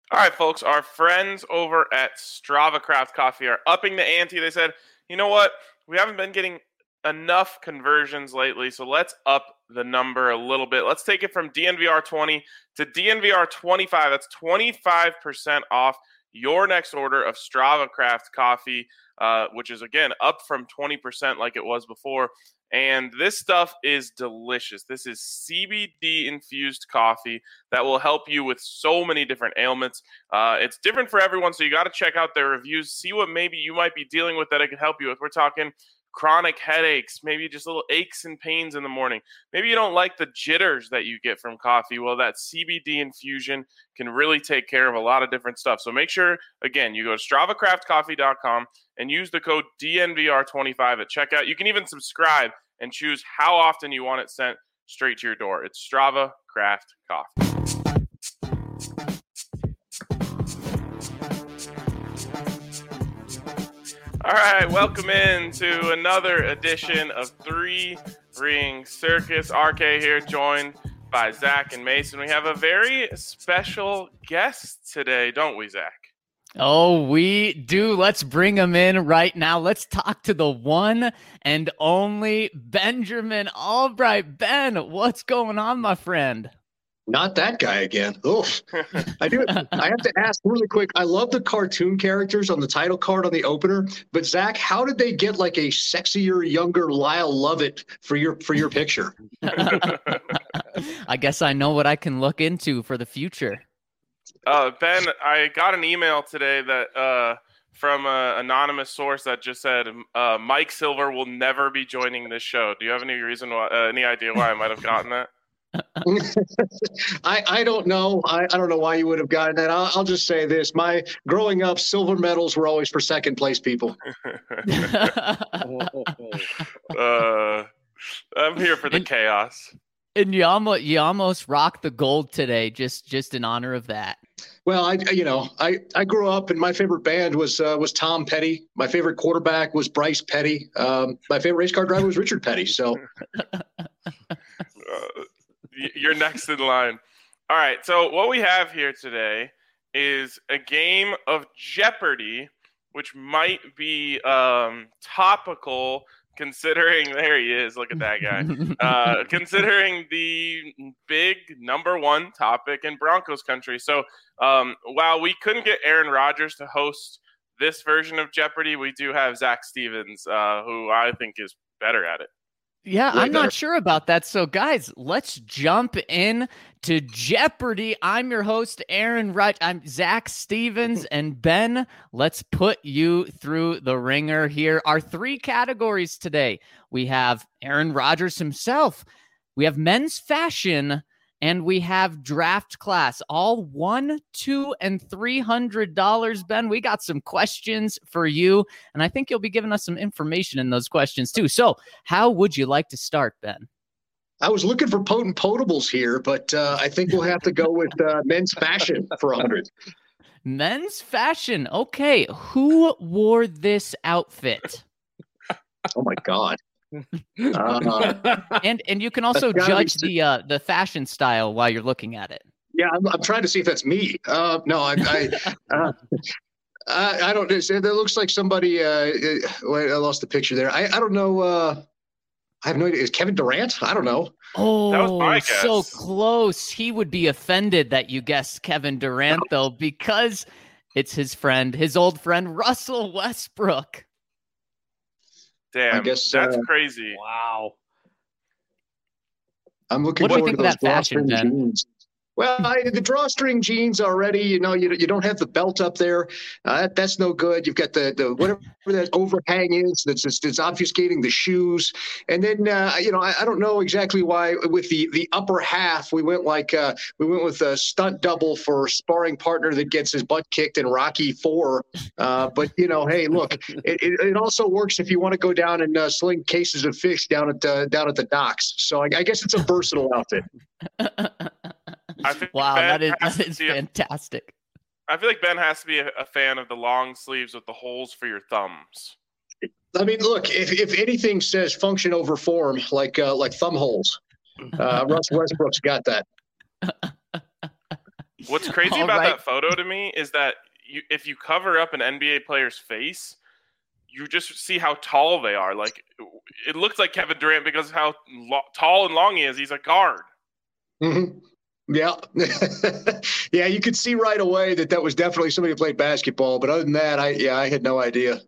All right, folks, our friends over at Strava Craft Coffee are upping the ante. They said, you know what? We haven't been getting enough conversions lately, so let's up the number a little bit. Let's take it from DNVR 20 to DNVR 25. That's 25% off your next order of Strava Craft Coffee, which is, again, up from 20% like it was before. And this stuff is delicious. This is CBD infused coffee that will help you with so many different ailments. It's different for everyone, so you got to check out their reviews, see what maybe you might be dealing with that it could help you with. We're talking chronic headaches, maybe just little aches and pains in the morning. Maybe you don't like the jitters that you get from coffee. Well, that CBD infusion can really take care of a lot of different stuff. So make sure, again, you go to StravaCraftCoffee.com and use the code DNVR25 at checkout. You can even subscribe and choose how often you want it sent straight to your door. It's Strava Craft Coffee. All right, welcome in to another edition of Three Ring Circus. RK here, joined by Zach and Mason. We have a very special guest today, don't we, Zach? Oh, we do. Let's bring him in right now. Let's talk to the one and only Benjamin Albright. Ben, what's going on, my friend? Not that guy again. Oof. I have to ask really quick. I love the cartoon characters on the title card on the opener, but Zach, how did they get like a sexier, younger Lyle Lovett for your picture? I guess I know what I can look into for the future. Ben, I got an email today that from an anonymous source that just said Mike Silver will never be joining this show. Do you have any reason why? Any idea why I might have gotten that? I don't know. I don't know why you would have gotten that. I'll just say this. My growing up, silver medals were always for second place people. I'm here for the chaos. And you almost rocked the gold today, just in honor of that. Well, I grew up and my favorite band was Tom Petty. My favorite quarterback was Bryce Petty. My favorite race car driver was Richard Petty. So you're next in line. All right. So what we have here today is a game of Jeopardy, which might be topical considering there he is. Look at that guy. Considering the big number one topic in Broncos country. So while we couldn't get Aaron Rodgers to host this version of Jeopardy, we do have Zach Stevens, who I think is better at it. Yeah, I'm not sure about that. So, guys, let's jump in to Jeopardy. I'm your host, Aaron Wright. I'm Zach Stevens. And Ben, let's put you through the ringer here. Our three categories today. We have Aaron Rodgers himself. We have men's fashion. And we have draft class, all $100, $200, and $300. Ben, we got some questions for you, and I think you'll be giving us some information in those questions too. So how would you like to start, Ben? I was looking for potent potables here, but I think we'll have to go with men's fashion for 100. Men's fashion. Okay. Who wore this outfit? Oh, my God. And you can also judge the fashion style while you're looking at it. Yeah, I'm trying to see if that's me. No, I don't. It looks like somebody. Wait, I lost the picture there. I don't know. I have no idea. Is Kevin Durant? I don't know. Oh, that was my guess. So close. He would be offended that you guessed Kevin Durant, though, because it's his old friend Russell Westbrook. Damn, I guess, that's crazy. Wow. I'm looking forward to those fashion jeans. Well, the drawstring jeans already, you don't have the belt up there. That's no good. You've got the whatever that overhang is that's obfuscating the shoes. And then, I don't know exactly why with the upper half, we went with a stunt double for sparring partner that gets his butt kicked in Rocky IV. But, hey, look, it also works if you want to go down and sling cases of fish down at the docks. So I guess it's a versatile outfit. Wow, that is fantastic. I feel like Ben has to be a fan of the long sleeves with the holes for your thumbs. I mean, look, if anything says function over form, like thumb holes, Russ Westbrook's got that. What's crazy about that photo to me is that if you cover up an NBA player's face, you just see how tall they are. Like, it looks like Kevin Durant because of how tall and long he is. He's a guard. Mm-hmm. Yeah. Yeah, you could see right away that was definitely somebody who played basketball. But other than that, I had no idea.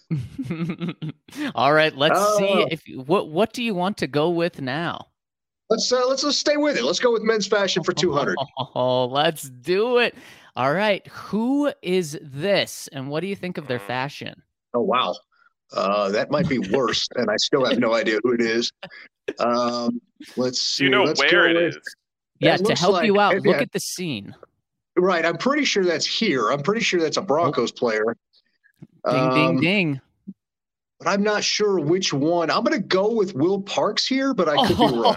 All right, let's see what do you want to go with now? Let's stay with it. Let's go with men's fashion for 200. Oh, let's do it. All right, who is this, and what do you think of their fashion? Oh wow, that might be worse, and I still have no idea who it is. Let's see. Do you know where it is? Yeah, to help you out, look at the scene. Right, I'm pretty sure that's here. I'm pretty sure that's a Broncos player. Ding, ding, ding. But I'm not sure which one. I'm going to go with Will Parks here, but I could be wrong.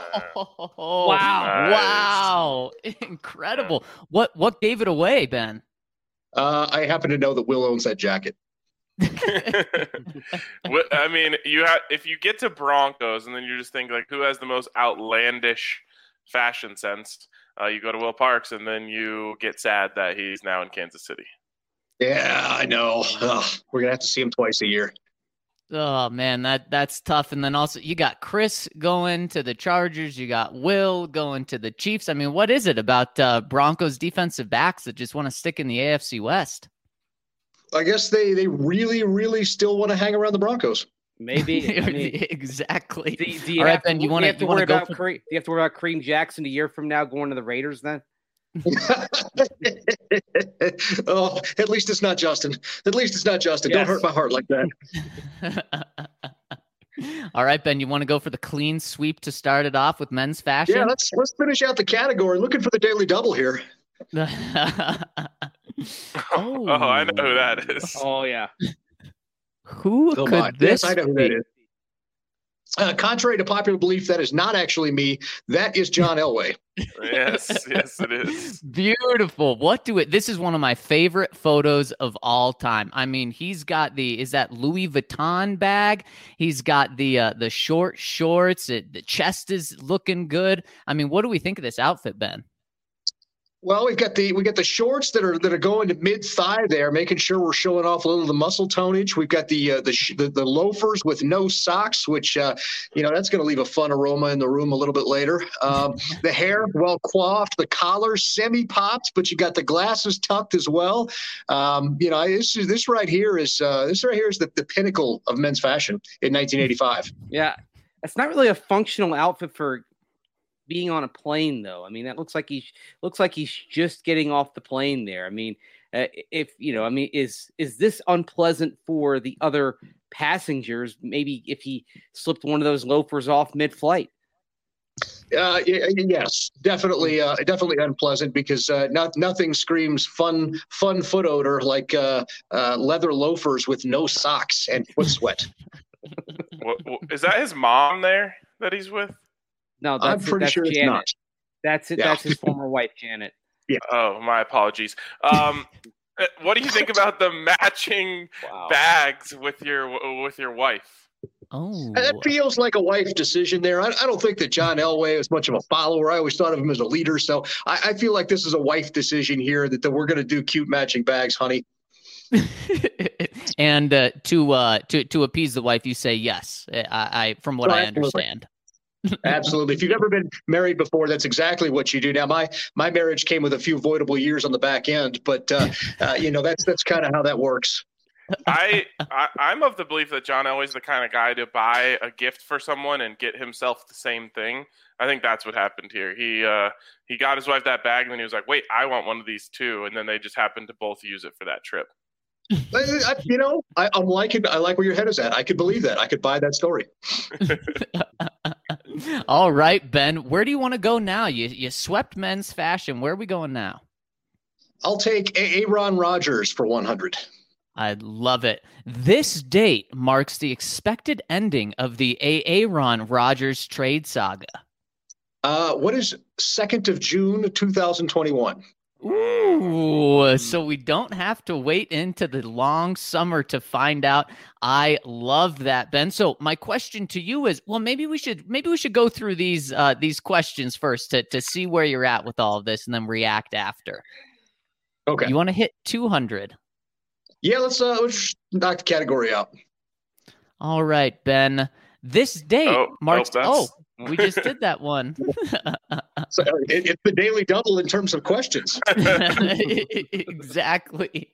Wow. Incredible. What gave it away, Ben? I happen to know that Will owns that jacket. I mean, if you get to Broncos and then you just think, like, who has the most outlandish fashion sense, you go to Will Parks, and then you get sad that he's now in Kansas City. Yeah, I know. We're going to have to see him twice a year. Oh, man, that's tough. And then also you got Chris going to the Chargers. You got Will going to the Chiefs. I mean, what is it about Broncos defensive backs that just want to stick in the AFC West? I guess they really, really still want to hang around the Broncos. Maybe. I mean, exactly. Do you have to worry about Kareem Jackson a year from now going to the Raiders then? Oh, at least it's not Justin. Yes. Don't hurt my heart like that. All right, Ben, you want to go for the clean sweep to start it off with men's fashion? Yeah, let's finish out the category. Looking for the daily double here. Oh, I know who that is. Oh, yeah. Who could this I know who that is. Contrary to popular belief, that is not actually me. That is John Elway. Yes, it is. Beautiful. This is one of my favorite photos of all time. I mean, he's got is that Louis Vuitton bag? He's got the short shorts. The chest is looking good. I mean, what do we think of this outfit, Ben? Well, we got the shorts that are going to mid thigh there, making sure we're showing off a little of the muscle tonnage. We've got the loafers with no socks, which that's going to leave a fun aroma in the room a little bit later. The hair well coiffed, the collar semi popped, but you got the glasses tucked as well. This right here is the pinnacle of men's fashion in 1985. Yeah, it's not really a functional outfit for being on a plane, though. I mean, that looks like he's just getting off the plane there. I mean, is this unpleasant for the other passengers? Maybe if he slipped one of those loafers off mid-flight. Yes, definitely unpleasant because nothing screams fun foot odor like leather loafers with no socks and foot sweat. Is that his mom there that he's with? No, I'm pretty sure Janet. It's not. That's it. Yeah. That's his former wife, Janet. Yeah. Oh, my apologies. What do you think about the matching bags with your wife? Oh, that feels like a wife decision there. I don't think that John Elway is much of a follower. I always thought of him as a leader. So I feel like this is a wife decision here that we're going to do cute matching bags, honey. And to appease the wife, you say yes. I from what I understand. Absolutely. If you've ever been married before, that's exactly what you do. Now, my marriage came with a few avoidable years on the back end, but that's kind of how that works. I'm of the belief that John Elway's the kind of guy to buy a gift for someone and get himself the same thing. I think that's what happened here. He got his wife that bag, and then he was like, "Wait, I want one of these too," and then they just happened to both use it for that trip. I'm liking. I like where your head is at. I could believe that. I could buy that story. All right, Ben. Where do you want to go now? You swept men's fashion. Where are we going now? I'll take Aaron Rodgers for 100. I love it. This date marks the expected ending of the Aaron Rodgers trade saga. What is 2nd of June, 2021? Ooh, so we don't have to wait into the long summer to find out. I love that, Ben. So my question to you is, well, maybe we should go through these questions first to see where you're at with all of this and then react after. Okay. You want to hit 200? Yeah, let's knock the category out. All right, Ben. This date marks. We just did that one. So it's the daily double in terms of questions. Exactly.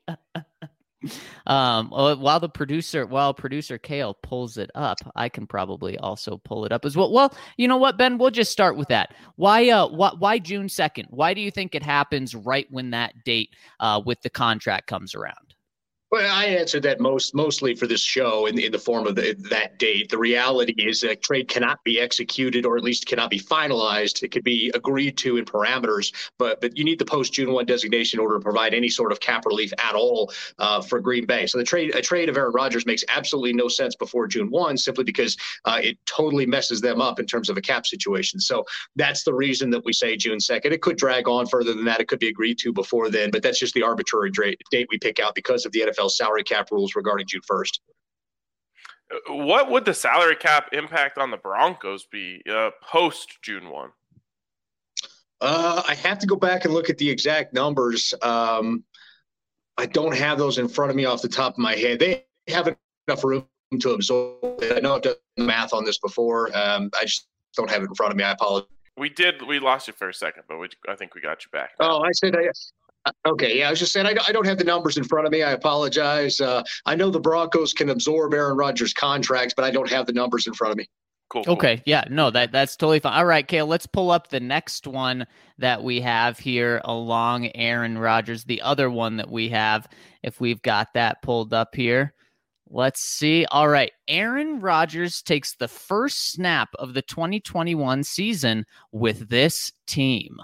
While producer Kale pulls it up, I can probably also pull it up as well. Well, you know what, Ben? We'll just start with that. Why June 2nd? Why do you think it happens right when that date with the contract comes around? Well, I answered that mostly for this show in the form of that date. The reality is that trade cannot be executed, or at least cannot be finalized. It could be agreed to in parameters, but you need the post-June 1 designation in order to provide any sort of cap relief at all for Green Bay. So a trade of Aaron Rodgers makes absolutely no sense before June 1, simply because it totally messes them up in terms of a cap situation. So that's the reason that we say June 2nd. It could drag on further than that. It could be agreed to before then, but that's just the arbitrary date we pick out because of the NFL salary cap rules regarding June 1st. What would the salary cap impact on the Broncos be post June 1? I have to go back and look at the exact numbers. I don't have those in front of me off the top of my head. They have enough room to absorb it. I know I've done math on this before. I just don't have it in front of me. I apologize. We lost you for a second, but I think we got you back. Oh, I said okay, yeah, I was just saying I don't have the numbers in front of me. I apologize. I know the Broncos can absorb Aaron Rodgers' contracts, but I don't have the numbers in front of me. Cool. Okay, yeah, no, that's totally fine. All right, Kale, let's pull up the next one that we have here along Aaron Rodgers, the other one that we have, if we've got that pulled up here. Let's see. All right, Aaron Rodgers takes the first snap of the 2021 season with this team.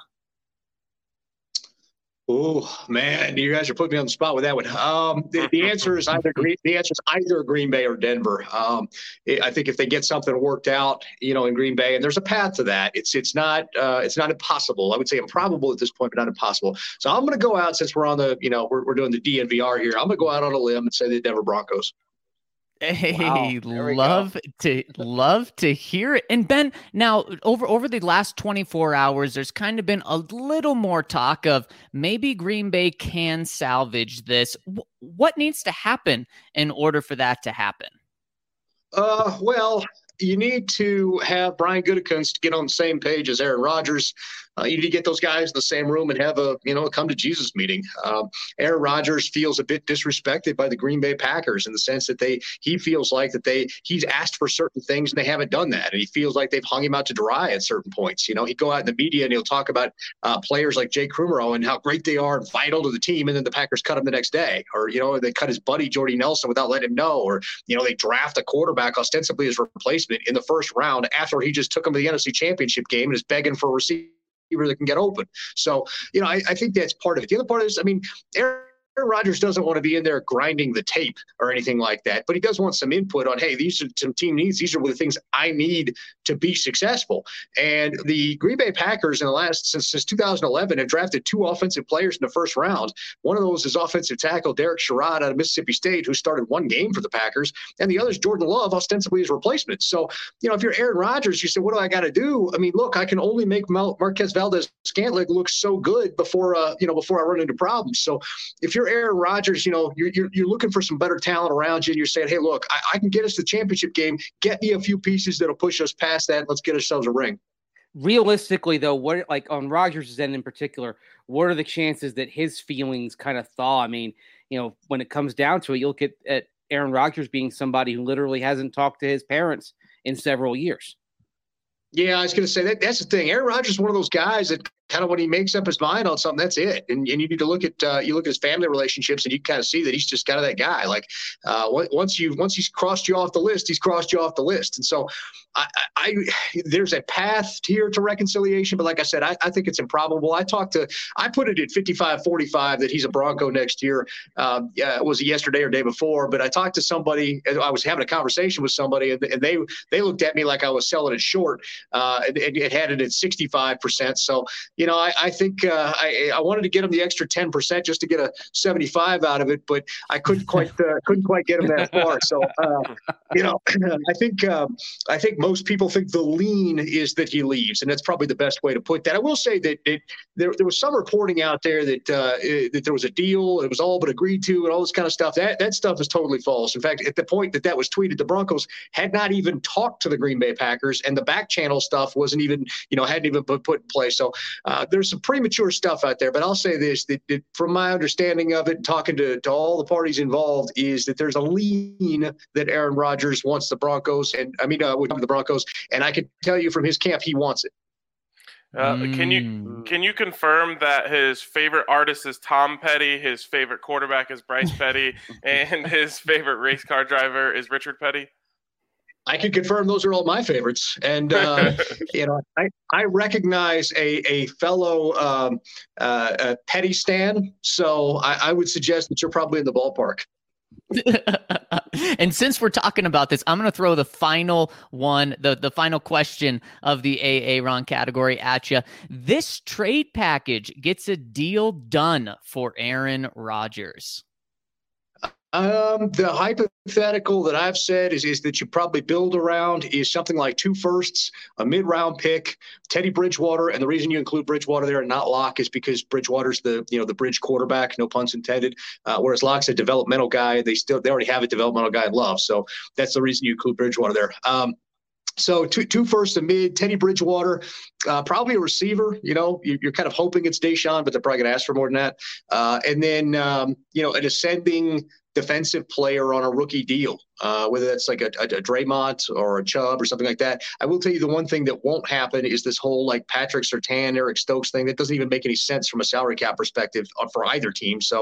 Oh man, you guys are putting me on the spot with that one. The answer is either Green Bay or Denver. I think if they get something worked out, in Green Bay, and there's a path to that, it's not impossible. I would say improbable at this point, but not impossible. So I'm going to go out, since we're on the we're doing the DNVR here. I'm going to go out on a limb and say the Denver Broncos. Hey, wow, love to hear it. And Ben, now over the last 24 hours, there's kind of been a little more talk of maybe Green Bay can salvage this. What needs to happen in order for that to happen? Well, you need to have Brian Gutekunst get on the same page as Aaron Rodgers. You need to get those guys in the same room and have a come to Jesus meeting. Aaron Rodgers feels a bit disrespected by the Green Bay Packers in the sense that he feels like he's asked for certain things and they haven't done that, and he feels like they've hung him out to dry at certain points. He'd go out in the media and he'll talk about players like Jake Kumerow and how great they are and vital to the team, and then the Packers cut him the next day, or they cut his buddy Jordy Nelson without letting him know, or they draft a quarterback ostensibly as replacement in the first round after he just took him to the NFC Championship game and is begging for a receiver that can get open. So, I think that's part of it. The other part is, Aaron Rodgers doesn't want to be in there grinding the tape or anything like that, but he does want some input on, hey, these are some team needs. These are the things I need to be successful. And the Green Bay Packers since 2011 have drafted 2 offensive players in the first round. One of those is offensive tackle Derek Sherrod out of Mississippi State, who started 1 game for the Packers, and the other is Jordan Love, ostensibly his replacement. So, if you're Aaron Rodgers, you say, what do I got to do? Look, I can only make Marquez Valdes-Scantling look so good before I run into problems. So if you're Aaron Rodgers, you're looking for some better talent around you, and you're saying, hey, look, I can get us the championship game. Get me a few pieces that'll push us past that. Let's get ourselves a ring. Realistically, though, on Rodgers' end in particular, what are the chances that his feelings kind of thaw? When it comes down to it, you look at Aaron Rodgers being somebody who literally hasn't talked to his parents in several years. Yeah, I was going to say that's the thing. Aaron Rodgers is one of those guys that kind of when he makes up his mind on something, that's it. And you need to look at his family relationships, and you kind of see that he's just kind of that guy. Like once he's crossed you off the list, he's crossed you off the list. And so there's a path here to reconciliation, but like I said, I think it's improbable. I put it at 55-45 that he's a Bronco next year. Was it yesterday or day before? But I talked to somebody. I was having a conversation with somebody, and they looked at me like I was selling it short. It had it at 65%. So I think I wanted to get him the extra 10% just to get a 75 out of it, but I couldn't quite get him that far. So I think most people think the lean is that he leaves, and that's probably the best way to put that. I will say that there was some reporting out there that there was a deal, it was all but agreed to, and all this kind of stuff. That stuff is totally false. In fact, at the point that was tweeted, the Broncos had not even talked to the Green Bay Packers, and the back channel stuff wasn't even, hadn't even been put in place. So there's some premature stuff out there. But I'll say this: that from my understanding of it, talking to all the parties involved, is that there's a lean that Aaron Rodgers wants the Broncos, and with the Broncos, and I can tell you from his camp, he wants it. Can you confirm that his favorite artist is Tom Petty, his favorite quarterback is Bryce Petty, and his favorite race car driver is Richard Petty? I can confirm those are all my favorites, and I recognize a fellow Petty stan, so I would suggest that you're probably in the ballpark. And since we're talking about this, I'm going to throw the final one, the final question of the Aaron category at you. This trade package gets a deal done for Aaron Rodgers. The hypothetical that I've said is that you probably build around is something like 2 firsts, a mid-round pick, Teddy Bridgewater, and the reason you include Bridgewater there and not Locke is because Bridgewater's the bridge quarterback, no puns intended. Whereas Locke's a developmental guy, they already have a developmental guy in Love, so that's the reason you include Bridgewater there. So 2 firsts, a mid, Teddy Bridgewater, probably a receiver. You're kind of hoping it's Deshaun, but they're probably going to ask for more than that. And then an ascending defensive player on a rookie deal, whether that's like a Draymond or a Chubb or something like that. I will tell you the one thing that won't happen is this whole like Patrick Surtain, Eric Stokes thing. That doesn't even make any sense from a salary cap perspective for either team. So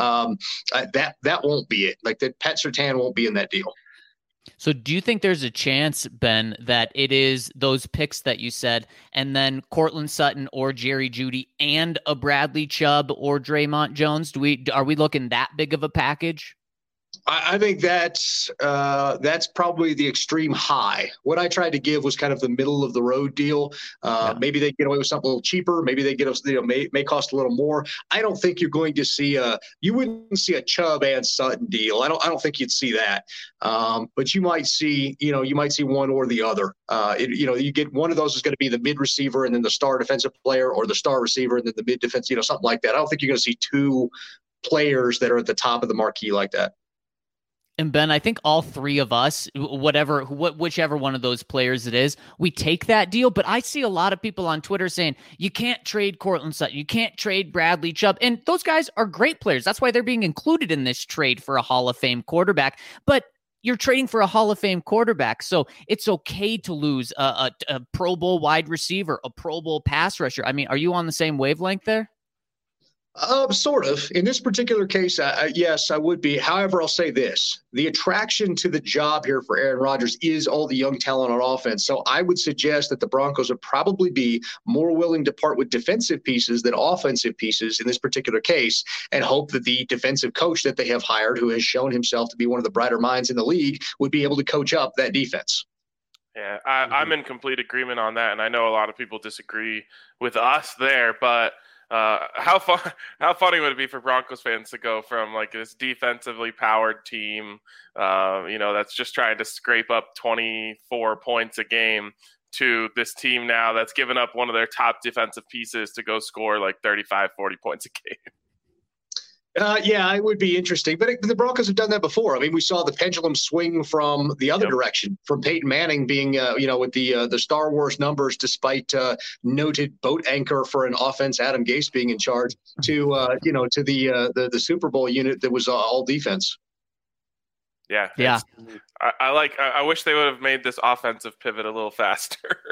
that won't be it. Like that Pat Surtain won't be in that deal. So do you think there's a chance, Ben, that it is those picks that you said, and then Cortland Sutton or Jerry Jeudy and a Bradley Chubb or Draymond Jones? Are we looking that big of a package? I think that's probably the extreme high. What I tried to give was kind of the middle of the road deal. Maybe they get away with something a little cheaper. Maybe they get us, may cost a little more. I don't think you're going to see you wouldn't see a Chubb and Sutton deal. I don't think you'd see that. But you might see one or the other. You get one of those is going to be the mid receiver and then the star defensive player, or the star receiver and then the mid defense, something like that. I don't think you're going to see 2 players that are at the top of the marquee like that. And Ben, I think all 3 of us, whichever one of those players it is, we take that deal. But I see a lot of people on Twitter saying, you can't trade Cortland Sutton, you can't trade Bradley Chubb. And those guys are great players. That's why they're being included in this trade for a Hall of Fame quarterback. But you're trading for a Hall of Fame quarterback, so it's okay to lose a Pro Bowl wide receiver, a Pro Bowl pass rusher. I mean, are you on the same wavelength there? Sort of. In this particular case, yes, I would be. However, I'll say this. The attraction to the job here for Aaron Rodgers is all the young talent on offense. So I would suggest that the Broncos would probably be more willing to part with defensive pieces than offensive pieces in this particular case, and hope that the defensive coach that they have hired, who has shown himself to be one of the brighter minds in the league, would be able to coach up that defense. Yeah, I'm in complete agreement on that, and I know a lot of people disagree with us there, but how funny would it be for Broncos fans to go from like this defensively powered team, that's just trying to scrape up 24 points a game, to this team now that's given up one of their top defensive pieces to go score like 35, 40 points a game? Yeah, it would be interesting. But the Broncos have done that before. I mean, we saw the pendulum swing from the other direction, from Peyton Manning being, with the Star Wars numbers, despite noted boat anchor for an offense, Adam Gase being in charge, to the Super Bowl unit that was all defense. Yeah. I wish they would have made this offensive pivot a little faster.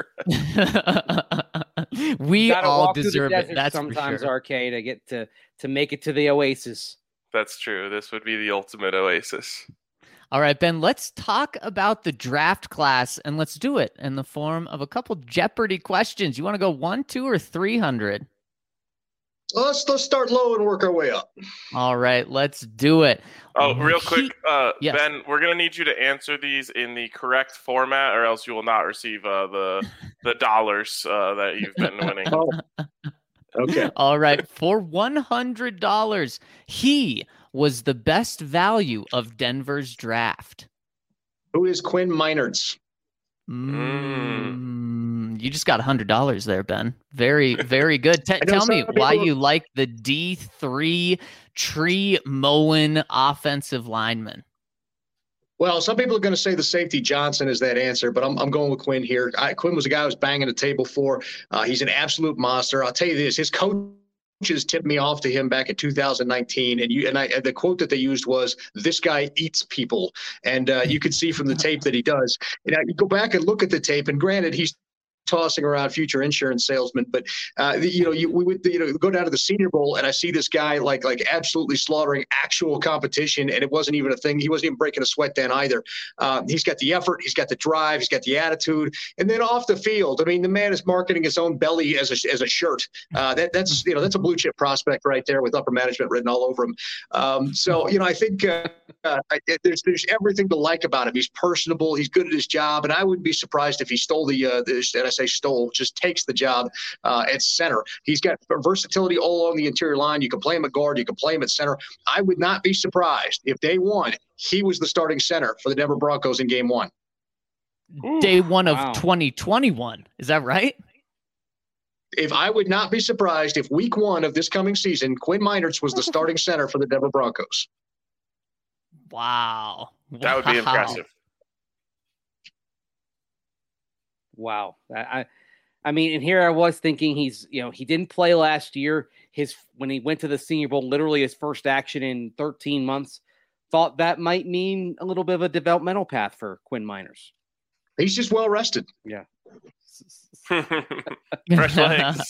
We all deserve it. That's sometimes for sure. Arcade. I get to make it to the Oasis. That's true. This would be the ultimate Oasis. All right, Ben, let's talk about the draft class, and let's do it in the form of a couple Jeopardy questions. You want to go 1, 2, or 300? Let's start low and work our way up. All right, let's do it. Oh, real quick, yes. Ben, we're going to need you to answer these in the correct format, or else you will not receive the dollars that you've been winning. Okay. All right. For $100, he was the best value of Denver's draft. Who is Quinn Meinerz? You just got $100 there, Ben. Very, very good. Tell me why you like the D3 tree mowing offensive lineman. Well, some people are going to say the safety Johnson is that answer, but I'm going with Quinn here. Quinn was a guy I was banging the table for. He's an absolute monster. I'll tell you this: his coaches tipped me off to him back in 2019, and the quote that they used was, "This guy eats people," and you can see from the tape that he does. You go back and look at the tape, and granted, he's tossing around future insurance salesman, but we would go down to the Senior Bowl, and I see this guy like absolutely slaughtering actual competition, and it wasn't even a thing. He wasn't even breaking a sweat then either. He's got the effort, he's got the drive, he's got the attitude, and then off the field, I mean, the man is marketing his own belly as a shirt. That's a blue chip prospect right there with upper management written all over him. I think there's everything to like about him. He's personable, he's good at his job, and I wouldn't be surprised if he stole just takes the job at center. He's got versatility all along the interior line. You can play him at guard. You can play him at center. I would not be surprised if day one he was the starting center for the Denver Broncos in game one. Day one of 2021. Is that right? I would not be surprised if week one of this coming season, Quinn Meinerz was the starting center for the Denver Broncos. Wow. That would be impressive. Wow. I mean, and here I was thinking he didn't play last year. When he went to the Senior Bowl, literally his first action in 13 months, thought that might mean a little bit of a developmental path for Quinn Meinerz. He's just well rested. Yeah. Fresh legs.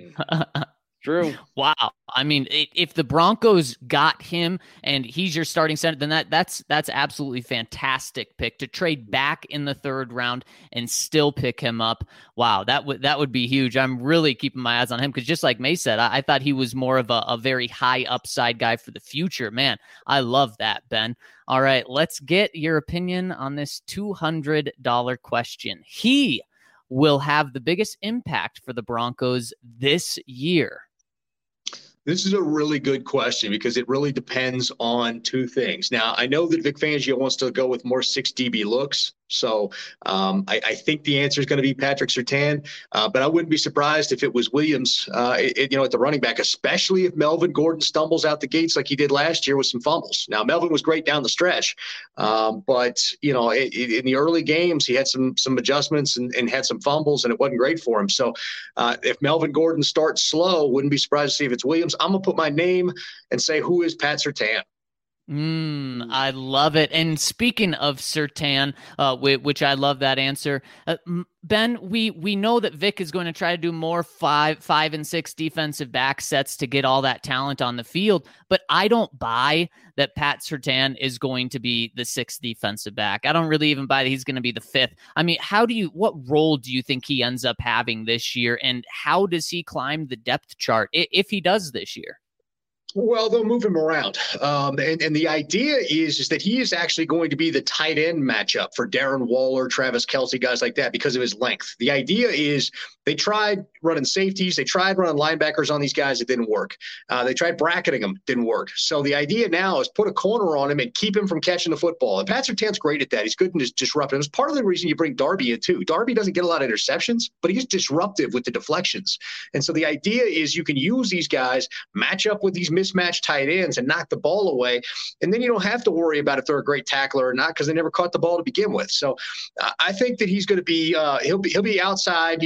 True. Wow. I mean, if the Broncos got him and he's your starting center, then that's absolutely fantastic pick to trade back in the third round and still pick him up. Wow, that would be huge. I'm really keeping my eyes on him because just like May said, I thought he was more of a very high upside guy for the future. Man, I love that, Ben. All right, let's get your opinion on this $200 question. He will have the biggest impact for the Broncos this year. This is a really good question because it really depends on two things. Now, I know that Vic Fangio wants to go with more 6 DB looks. So I think the answer is going to be Patrick Surtain, but I wouldn't be surprised if it was Williams, at the running back, especially if Melvin Gordon stumbles out the gates like he did last year with some fumbles. Now, Melvin was great down the stretch, but in the early games, he had some adjustments and had some fumbles, and it wasn't great for him. So if Melvin Gordon starts slow, wouldn't be surprised to see if it's Williams. I'm going to put my name and say, who is Pat Surtain? I love it. And speaking of Surtain, which I love that answer, Ben, we know that Vic is going to try to do more 5 and 6 defensive back sets to get all that talent on the field, but I don't buy that Pat Surtain is going to be the 6th defensive back. I don't really even buy that he's going to be the 5th. I mean, what role do you think he ends up having this year, and how does he climb the depth chart if he does this year? Well, they'll move him around. And the idea is that he is actually going to be the tight end matchup for Darren Waller, Travis Kelce, guys like that because of his length. The idea is they tried running safeties. They tried running linebackers on these guys. It didn't work. They tried bracketing them. Didn't work. So the idea now is put a corner on him and keep him from catching the football. And Pat Surtain's great at that. He's good and disruptive. It's part of the reason you bring Darby in too. Darby doesn't get a lot of interceptions, but he's disruptive with the deflections. And so the idea is you can use these guys, match up with these mismatched tight ends and knock the ball away. And then you don't have to worry about if they're a great tackler or not because they never caught the ball to begin with. So I think that he's going to be he'll be outside.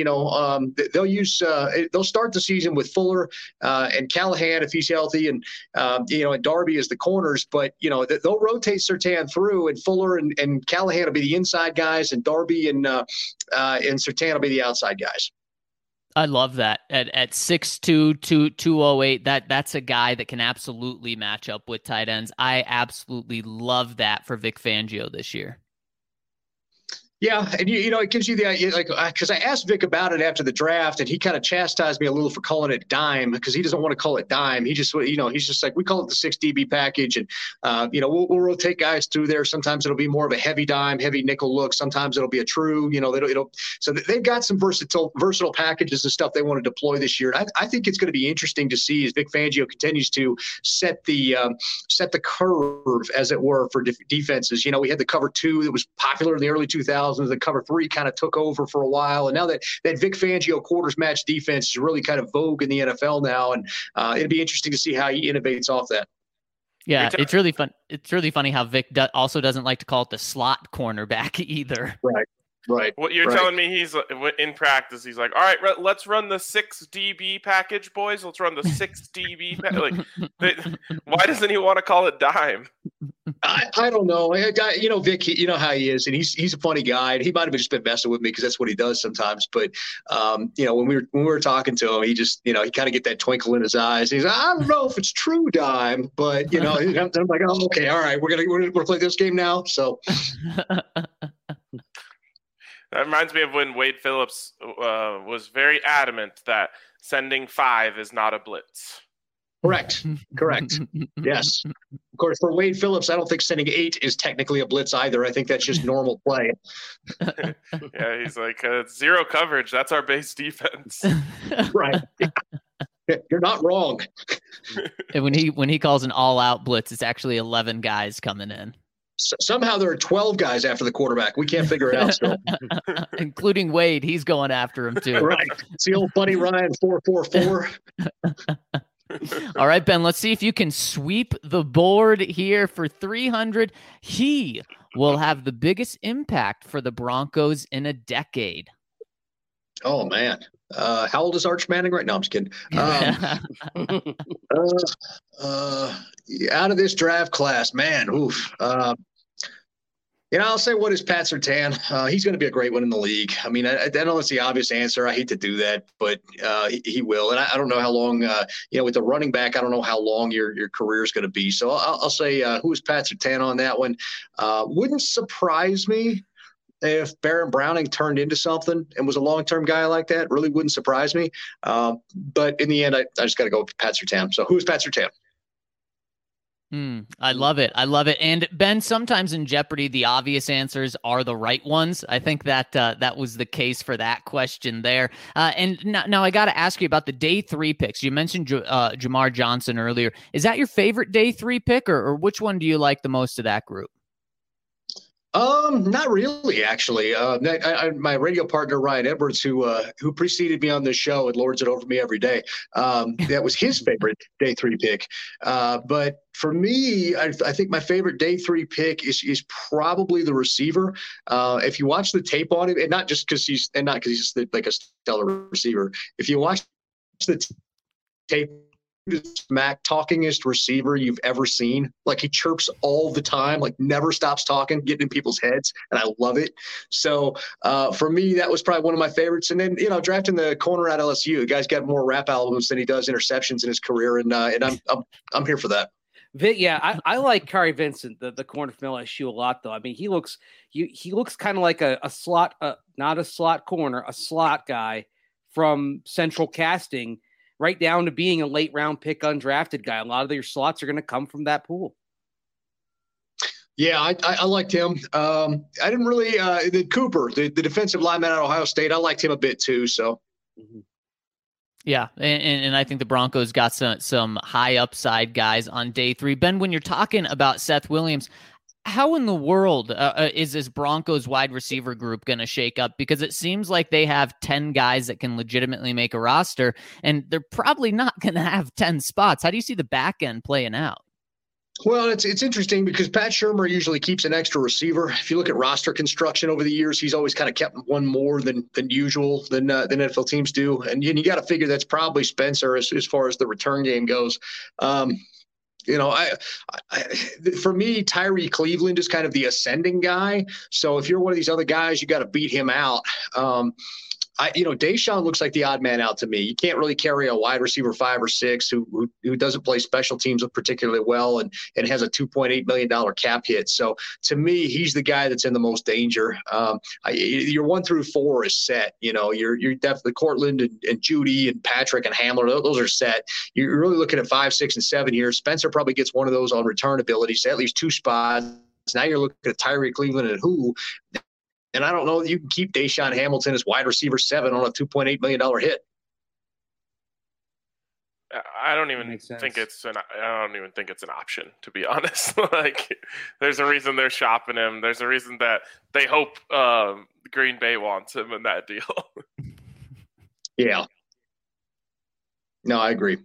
They'll start the season with Fuller and Callahan if he's healthy, and and Darby as the corners. But they'll rotate Surtain through, and Fuller and Callahan will be the inside guys, and Darby and Surtain will be the outside guys. I love that. At 6'2", 208, that's a guy that can absolutely match up with tight ends. I absolutely love that for Vic Fangio this year. Yeah, and it gives you the idea, like, because I asked Vic about it after the draft, and he kind of chastised me a little for calling it dime because he doesn't want to call it dime. He just, he's just like, we call it the 6 DB package, and we'll rotate guys through there. Sometimes it'll be more of a heavy dime, heavy nickel look. Sometimes it'll be a true, so they've got some versatile packages and stuff they want to deploy this year. I think it's going to be interesting to see as Vic Fangio continues to set the curve, as it were, for defenses. We had the cover 2 that was popular in the early 2000s. The cover 3 kind of took over for a while, and now that Vic Fangio quarters match defense is really kind of vogue in the NFL now, and it'd be interesting to see how he innovates off that. Yeah, it's really fun. It's really funny how Vic also doesn't like to call it the slot cornerback either. Right. What you're telling me, he's in practice, he's like, all right, let's run the 6 DB package, boys. Let's run the 6 DB. Why doesn't he want to call it dime? I don't know. Vic, how he is, and he's a funny guy. And he might have just been messing with me because that's what he does sometimes. But when we were talking to him, he just he kind of get that twinkle in his eyes. He's like, I don't know if it's true dime, but I'm like, oh, okay, all right, we're gonna play this game now. So. That reminds me of when Wade Phillips was very adamant that sending 5 is not a blitz. Correct. Yes. Of course, for Wade Phillips, I don't think sending 8 is technically a blitz either. I think that's just normal play. Yeah, he's like, 0 coverage. That's our base defense. Right. You're not wrong. And when he calls an all-out blitz, it's actually 11 guys coming in. Somehow there are 12 guys after the quarterback. We can't figure it out still. Including Wade. He's going after him too. Right. It's the old Buddy Ryan 4-4-4. All right, Ben, let's see if you can sweep the board here for 300. He will have the biggest impact for the Broncos in a decade. Oh, man. How old is Arch Manning right now? I'm just kidding. Out of this draft class, man. Oof. I'll say, what is Pat Surtain? He's going to be a great one in the league. I mean, I know it's the obvious answer. I hate to do that, but he will. And I don't know how long, with the running back, I don't know how long your career is going to be. So I'll say, who is Pat Surtain on that one? Wouldn't surprise me if Baron Browning turned into something and was a long-term guy like that. Really wouldn't surprise me. But in the end, I just got to go with Pat Surtain. So who's Pat Surtain? I love it. And Ben, sometimes in Jeopardy, the obvious answers are the right ones. I think that that was the case for that question there. And now I got to ask you about the day 3 picks. You mentioned Jamar Johnson earlier. Is that your favorite day 3 pick, or which one do you like the most of that group? Not really, actually. My radio partner, Ryan Edwards, who preceded me on this show and lords it over me every day, that was his favorite day 3 pick. But for me, I think my favorite day 3 pick is probably the receiver. If you watch the tape on him, and not because he's like a stellar receiver, if you watch the tape, smack talkingest receiver you've ever seen. Like, he chirps all the time, like never stops talking, getting in people's heads, and I love it. So for me, that was probably one of my favorites. And then drafting the corner at LSU, the guy's got more rap albums than he does interceptions in his career, and I'm here for that. Yeah, I like Kari Vincent, the corner from LSU, a lot, though. I mean, he looks kind of like a slot, not a slot corner, a slot guy from Central Casting, right down to being a late round pick, undrafted guy. A lot of your slots are going to come from that pool. Yeah, I liked him. I didn't really the Cooper, the defensive lineman at Ohio State. I liked him a bit too. So. Mm-hmm. Yeah, and I think the Broncos got some high upside guys on day 3. Ben, when you're talking about Seth Williams, how in the world is this Broncos wide receiver group going to shake up? Because it seems like they have 10 guys that can legitimately make a roster, and they're probably not going to have 10 spots. How do you see the back end playing out? Well, it's interesting because Pat Shurmur usually keeps an extra receiver. If you look at roster construction over the years, he's always kind of kept one more than usual than NFL teams do. And you got to figure that's probably Spencer as far as the return game goes. For me, Tyree Cleveland is kind of the ascending guy. So if you're one of these other guys, you got to beat him out. Deshaun looks like the odd man out to me. You can't really carry a wide receiver 5 or 6 who doesn't play special teams particularly well and has a $2.8 million cap hit. So to me, he's the guy that's in the most danger. Your 1 through 4 is set. You're definitely Cortland and Judy and Patrick and Hamler. Those are set. You're really looking at 5, 6, and 7 here. Spencer probably gets one of those on return ability, so at least 2 spots. Now you're looking at Tyree Cleveland and who. And I don't know that you can keep Deshaun Hamilton as wide receiver 7 on a $2.8 million hit. I don't even think it's an option, to be honest. There's a reason they're shopping him. There's a reason that they hope Green Bay wants him in that deal. Yeah. No, I agree.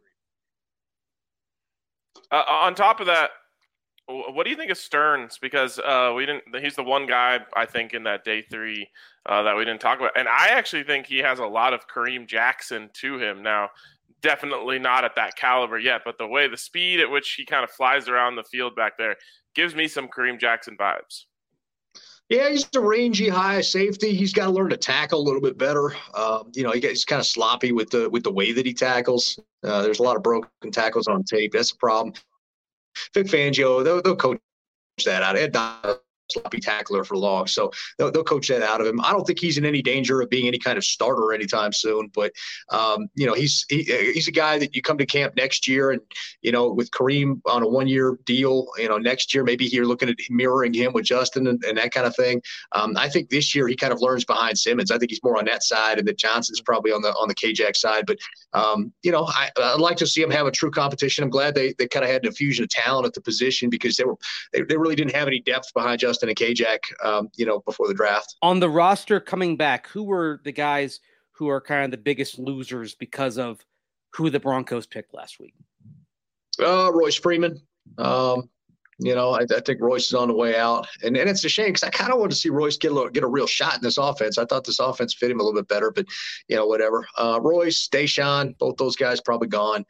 On top of that, what do you think of Stearns? Because he's the one guy I think in that day 3 that we didn't talk about, and I actually think he has a lot of Kareem Jackson to him. Now, definitely not at that caliber yet, but the speed at which he kind of flies around the field back there gives me some Kareem Jackson vibes. Yeah, he's a rangy high safety. He's got to learn to tackle a little bit better. He's kind of sloppy with the way that he tackles. There's a lot of broken tackles on tape. That's a problem. Vic Fangio, they'll coach that out. Ed Donald, sloppy tackler for long, so they'll coach that out of him. I don't think he's in any danger of being any kind of starter anytime soon, but he's a guy that you come to camp next year, and with Kareem on a 1-year deal, next year maybe you're looking at mirroring him with Justin and that kind of thing. I think this year he kind of learns behind Simmons. I think he's more on that side, and that Johnson's probably on the K-Jack side. But I'd like to see him have a true competition. I'm glad they kind of had an infusion of talent at the position, because they really didn't have any depth behind Justin and K-Jack, before the draft. On the roster coming back, who were the guys who are kind of the biggest losers because of who the Broncos picked last week? Royce Freeman. I think Royce is on the way out, and it's a shame because I kind of wanted to see Royce get a real shot in this offense. I thought this offense fit him a little bit better, but whatever. Royce, Deshaun, both those guys probably gone.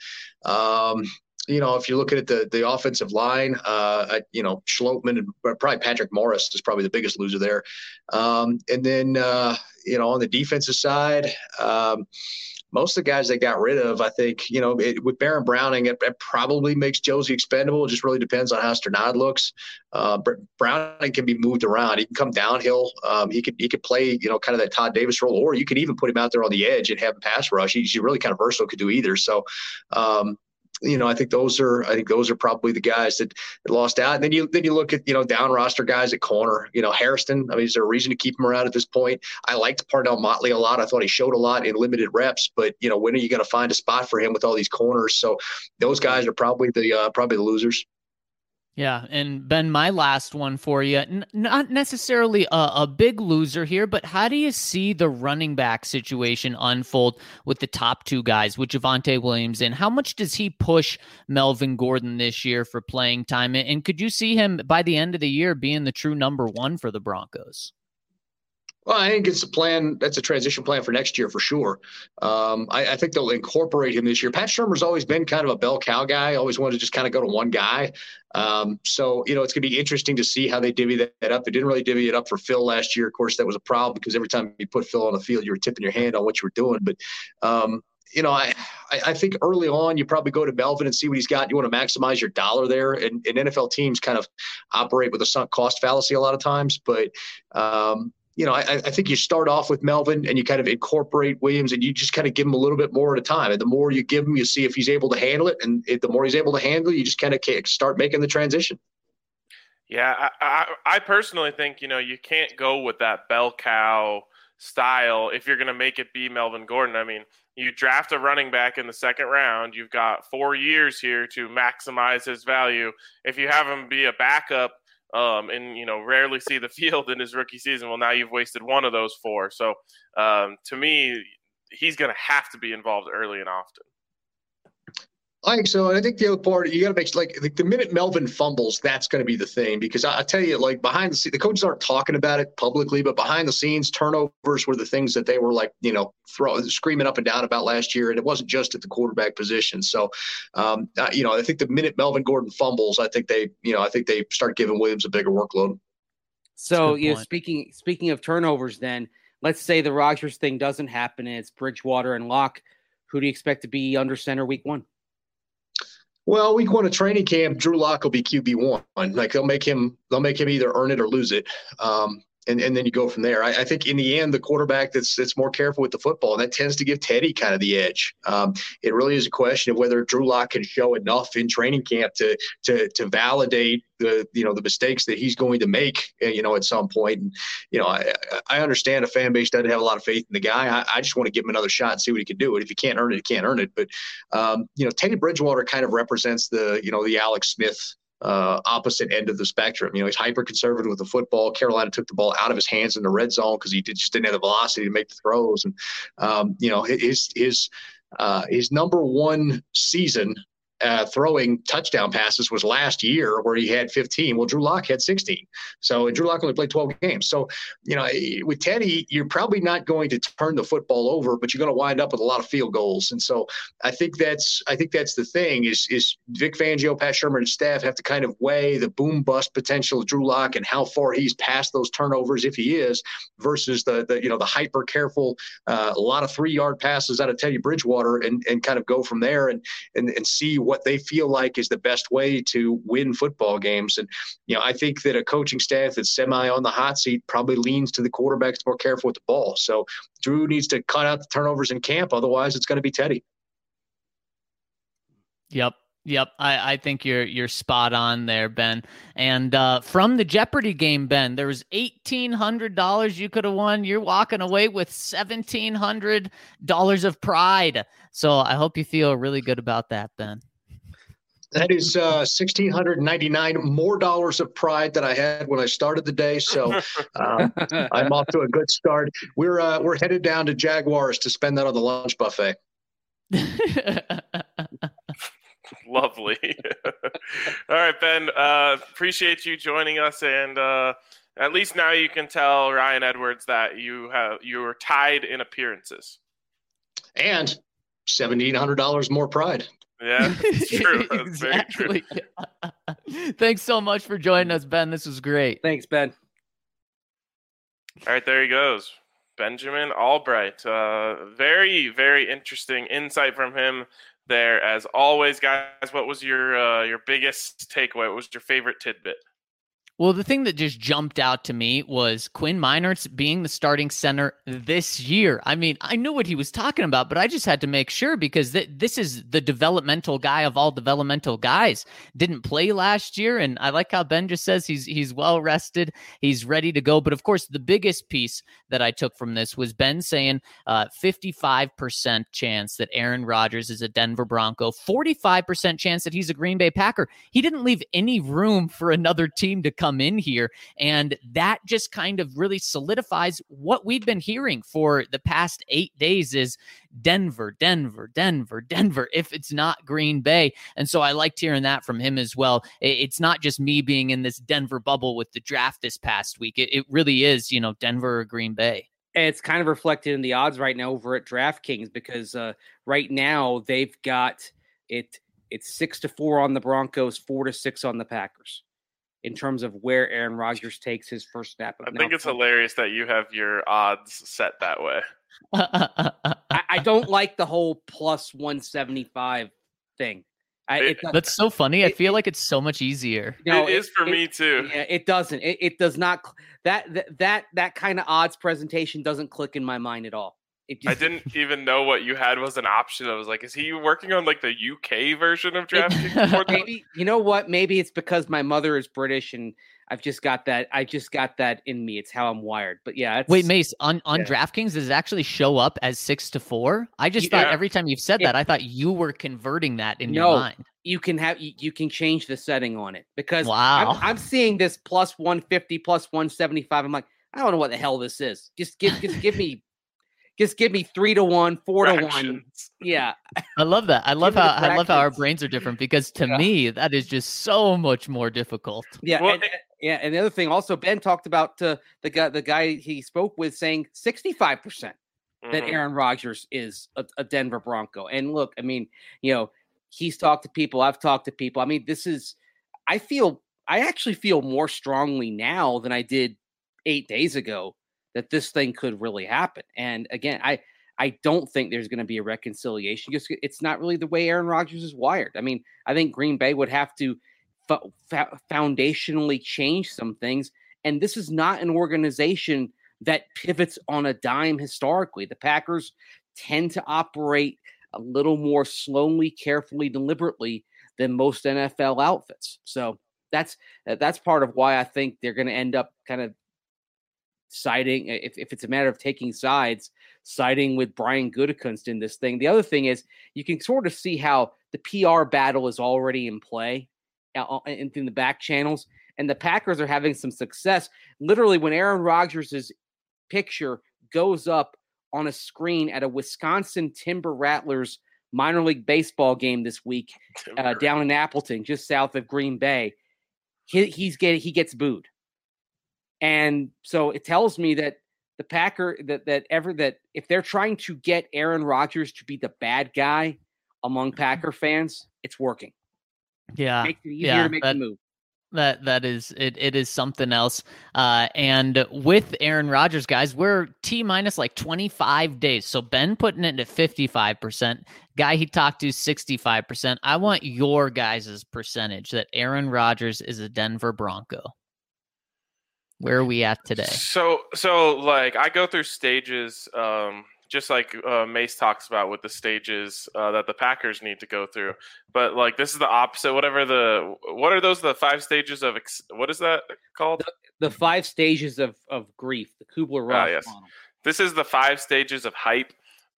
If you're looking at the offensive line, Schlotman and probably Patrick Morris is probably the biggest loser there. And then, on the defensive side, most of the guys they got rid of, I think, with Baron Browning, it probably makes Josie expendable. It just really depends on how Sternad looks. Browning can be moved around. He can come downhill. He could play, kind of that Todd Davis role, or you could even put him out there on the edge and have him pass rush. He's really kind of versatile, could do either. So, I think those are probably the guys that lost out. And then you look at, down roster guys at corner, Hairston. I mean, is there a reason to keep him around at this point? I liked Parnell Motley a lot. I thought he showed a lot in limited reps, but when are you going to find a spot for him with all these corners? So those guys are probably the losers. Yeah, and Ben, my last one for you, not necessarily a big loser here, but how do you see the running back situation unfold with the top 2 guys, with Javonte Williams, and how much does he push Melvin Gordon this year for playing time? And could you see him by the end of the year being the true number 1 for the Broncos? Well, I think it's a plan. That's a transition plan for next year for sure. I think they'll incorporate him this year. Pat Shurmur's always been kind of a bell cow guy. Always wanted to just kind of go to one guy. So, it's going to be interesting to see how they divvy that up. They didn't really divvy it up for Phil last year. Of course, that was a problem because every time you put Phil on the field, you were tipping your hand on what you were doing. But, I think early on you probably go to Melvin and see what he's got. You want to maximize your dollar there. And NFL teams kind of operate with a sunk cost fallacy a lot of times. But, I think you start off with Melvin and you kind of incorporate Williams and you just kind of give him a little bit more at a time. And the more you give him, you see if he's able to handle it. And the more he's able to handle it, you just kind of start making the transition. Yeah, I personally think, you can't go with that bell cow style if you're going to make it be Melvin Gordon. I mean, you draft a running back in the 2nd round. You've got 4 years here to maximize his value. If you have him be a backup, and rarely see the field in his rookie season, well, now you've wasted one of those 4. So to me, he's going to have to be involved early and often. I think so. And I think the other part, you got to make the minute Melvin fumbles, that's going to be the thing. Because I tell you, behind the scenes, the coaches aren't talking about it publicly, but behind the scenes, turnovers were the things that they were screaming up and down about last year. And it wasn't just at the quarterback position. So, I think the minute Melvin Gordon fumbles, I think they start giving Williams a bigger workload. So, speaking of turnovers, then let's say the Rodgers thing doesn't happen and it's Bridgewater and Locke. Who do you expect to be under center week 1? Well, week 1 of training camp, Drew Lock will be QB1. Like they'll make him either earn it or lose it. And then you go from there. I think in the end, the quarterback that's more careful with the football, and that tends to give Teddy kind of the edge. It really is a question of whether Drew Lock can show enough in training camp to validate the mistakes that he's going to make, at some point. And, I understand a fan base doesn't have a lot of faith in the guy. I just want to give him another shot and see what he can do. And if he can't earn it, he can't earn it. But, Teddy Bridgewater kind of represents the Alex Smith opposite end of the spectrum. He's hyper conservative with the football. Carolina took the ball out of his hands in the red zone because he just didn't have the velocity to make the throws. And his number 1 season throwing touchdown passes was last year, where he had 15. Well, Drew Lock had 16. And Drew Lock only played 12 games. So, with Teddy, you're probably not going to turn the football over, but you're going to wind up with a lot of field goals. And so I think that's the thing is Vic Fangio, Pat Shermer, and staff have to kind of weigh the boom bust potential of Drew Lock and how far he's past those turnovers, if he is, versus the hyper careful, a lot of 3-yard passes out of Teddy Bridgewater, and kind of go from there and see what they feel like is the best way to win football games. And, I think that a coaching staff that's semi on the hot seat probably leans to the quarterbacks more careful with the ball. So Drew needs to cut out the turnovers in camp. Otherwise it's going to be Teddy. Yep. I think you're spot on there, Ben. And from the Jeopardy game, Ben, there was $1,800 you could have won. You're walking away with $1,700 of pride. So I hope you feel really good about that, Ben. That is $1,699 more dollars of pride than I had when I started the day. So I'm off to a good start. We're headed down to Jaguars to spend that on the lunch buffet. Lovely. All right, Ben. Appreciate you joining us, and at least now you can tell Ryan Edwards that you were tied in appearances, and $1,700 more pride. Yeah, it's true. That's very true. Thanks so much for joining us, Ben. This was great. Thanks, Ben. All right, there he goes. Benjamin Albright. Very, very interesting insight from him there. As always, guys, what was your biggest takeaway? What was your favorite tidbit? Well, the thing that just jumped out to me was Quinn Meinerz being the starting center this year. I mean, I knew what he was talking about, but I just had to make sure because this is the developmental guy of all developmental guys. Didn't play last year, and I like how Ben just says he's well rested, he's ready to go. But of course, the biggest piece that I took from this was Ben saying 55% chance that Aaron Rodgers is a Denver Bronco, 45% chance that he's a Green Bay Packer. He didn't leave any room for another team to come in here. And that just kind of really solidifies what we've been hearing for the past 8 days is Denver, Denver, Denver, Denver, if it's not Green Bay. And so I liked hearing that from him as well. It's not just me being in this Denver bubble with the draft this past week. It really is, Denver or Green Bay. And it's kind of reflected in the odds right now over at DraftKings because right now they've got it's 6-4 on the Broncos, 4-6 on the Packers in terms of where Aaron Rodgers takes his first snap. I think it's hilarious that you have your odds set that way. I don't like the whole plus 175 thing. That's so funny. I feel like it's so much easier. It is for me too. Yeah, it doesn't. It does not. That kind of odds presentation doesn't click in my mind at all. I didn't even know what you had was an option. I was like, is he working on like the UK version of DraftKings? Maybe, you know what? Maybe it's because my mother is British and I've just got that. I just got that in me. It's how I'm wired. But yeah. Wait, Mace, on DraftKings, does it actually show up as 6-4? I just thought every time you've said that, I thought you were converting that in your mind. You can change the setting on it because I'm seeing this plus 150, plus 175. I'm like, I don't know what the hell this is. Just give me. Just give me 3-1, 4-1. Yeah, I love that. I love how our brains are different because to me that is just so much more difficult. Yeah, well, and the other thing also, Ben talked about the guy he spoke with saying 65% that Aaron Rodgers is a Denver Bronco. And look, I mean, he's talked to people. I've talked to people. I mean, I actually feel more strongly now than I did 8 days ago that this thing could really happen. And again, I don't think there's going to be a reconciliation because it's not really the way Aaron Rodgers is wired. I mean, I think Green Bay would have to foundationally change some things. And this is not an organization that pivots on a dime historically. The Packers tend to operate a little more slowly, carefully, deliberately than most NFL outfits. So that's part of why I think they're going to end up kind of siding, if it's a matter of taking sides, siding with Brian Gutekunst in this thing. The other thing is you can sort of see how the PR battle is already in play in the back channels, and the Packers are having some success. Literally, when Aaron Rodgers' picture goes up on a screen at a Wisconsin Timber Rattlers minor league baseball game this week down in Appleton, just south of Green Bay, he gets booed. And so it tells me that the Packer that if they're trying to get Aaron Rodgers to be the bad guy among Packer fans, it's working. Yeah, makes it easier to make the move. That is it is something else. And with Aaron Rodgers, guys, we're T-minus like 25 days. So Ben putting it at 55%. Guy he talked to 65%. I want your guys' percentage that Aaron Rodgers is a Denver Bronco. Where are we at today? So like I go through stages, just like Mace talks about with the stages that the Packers need to go through. But like this is the opposite. What are those? The 5 stages of what is that called? The 5 stages of grief. The Kubler-Ross yes. model. This is the 5 stages of hype.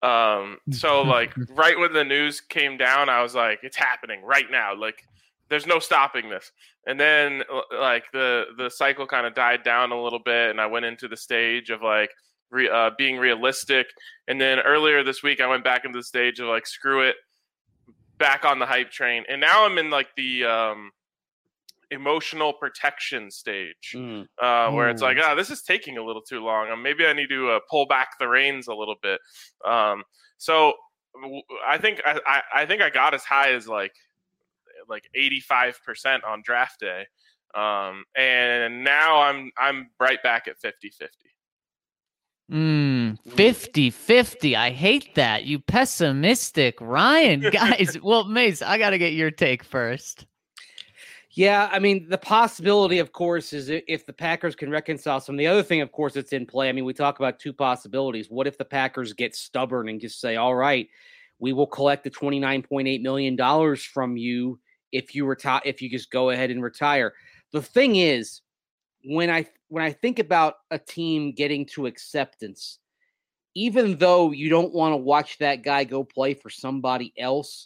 So like right when the news came down, I was like, it's happening right now. Like there's no stopping this. And then like the cycle kind of died down a little bit, and I went into the stage of like being realistic. And then earlier this week, I went back into the stage of like, screw it, back on the hype train. And now I'm in like the emotional protection stage where it's like, this is taking a little too long. Maybe I need to pull back the reins a little bit. So I think I got as high as like 85% on draft day. And now I'm right back at 50-50. 50-50. I hate that. You pessimistic Ryan. Guys, well, Mace, I got to get your take first. Yeah, I mean, the possibility, of course, is if the Packers can reconcile some. The other thing, of course, that's in play. I mean, we talk about 2 possibilities. What if the Packers get stubborn and just say, all right, we will collect the $29.8 million from you if you just go ahead and retire. The thing is, when I think about a team getting to acceptance, even though you don't want to watch that guy go play for somebody else,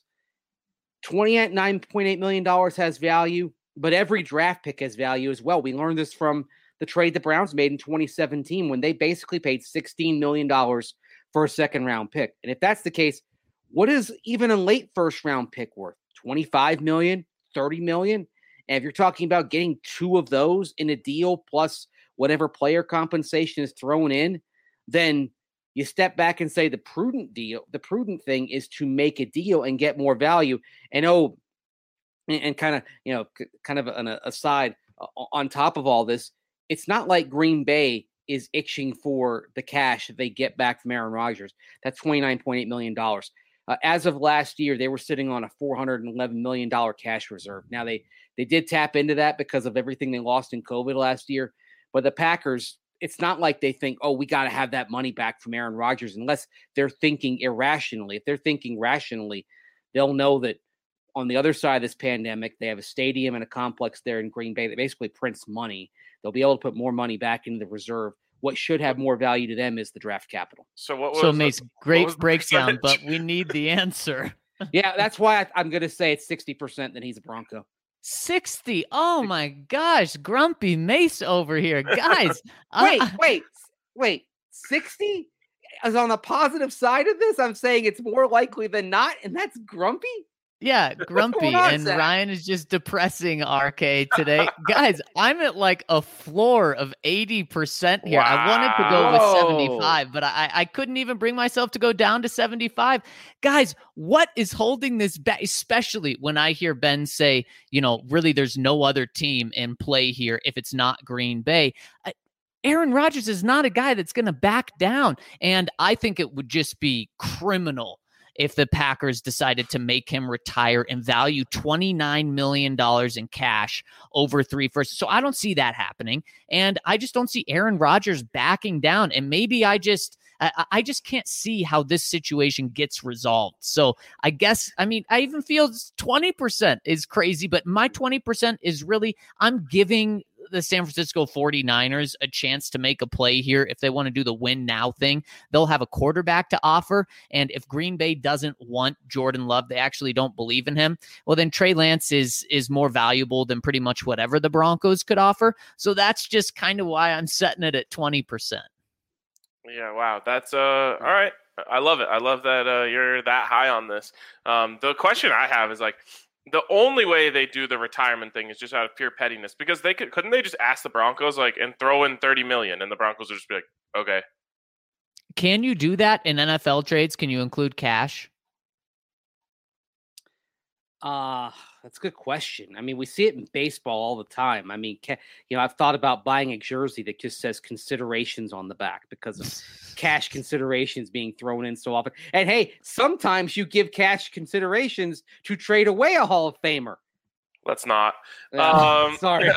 $29.8 million has value, but every draft pick has value as well. We learned this from the trade the Browns made in 2017 when they basically paid $16 million for a second-round pick. And if that's the case, what is even a late first-round pick worth? $25 million, $30 million? And if you're talking about getting 2 of those in a deal plus whatever player compensation is thrown in, then you step back and say the prudent thing is to make a deal and get more value. And kind of an aside on top of all this, it's not like Green Bay is itching for the cash that they get back from Aaron Rodgers. That's $29.8 million. As of last year, they were sitting on a $411 million cash reserve. Now, they did tap into that because of everything they lost in COVID last year. But the Packers, it's not like they think, oh, we got to have that money back from Aaron Rodgers, unless they're thinking irrationally. If they're thinking rationally, they'll know that on the other side of this pandemic, they have a stadium and a complex there in Green Bay that basically prints money. They'll be able to put more money back into the reserve. What should have more value to them is the draft capital. So Mace, great breakdown, but we need the answer. Yeah, that's why I'm going to say it's 60% that he's a Bronco. 60. Oh my gosh, grumpy Mace over here, guys. Wait. 60 is on the positive side of this. I'm saying it's more likely than not, and that's grumpy. Yeah, grumpy, and Zach? Ryan is just depressing RK today. Guys, I'm at like a floor of 80% here. Wow. I wanted to go with 75, but I couldn't even bring myself to go down to 75. Guys, what is holding this back, especially when I hear Ben say, really, there's no other team in play here if it's not Green Bay. Aaron Rodgers is not a guy that's going to back down. And I think it would just be criminal if the Packers decided to make him retire and value $29 million in cash over 3 firsts. So I don't see that happening. And I just don't see Aaron Rodgers backing down. And maybe I just can't see how this situation gets resolved. So I guess, I even feel 20% is crazy, but my 20% is really, I'm giving the San Francisco 49ers a chance to make a play here. If they want to do the win now thing, they'll have a quarterback to offer. And if Green Bay doesn't want Jordan Love, they actually don't believe in him, well, then Trey Lance is more valuable than pretty much whatever the Broncos could offer. So that's just kind of why I'm setting it at 20%. Yeah, wow. That's all right. I love it. I love that you're that high on this. The question I have is like, the only way they do the retirement thing is just out of pure pettiness, because couldn't they just ask the Broncos and throw in $30 million, and the Broncos would just be like, okay. Can you do that in NFL trades? Can you include cash? That's a good question. We see it in baseball all the time. I've thought about buying a jersey that just says considerations on the back because of cash considerations being thrown in so often. And hey, sometimes you give cash considerations to trade away a Hall of Famer. Let's not. Sorry.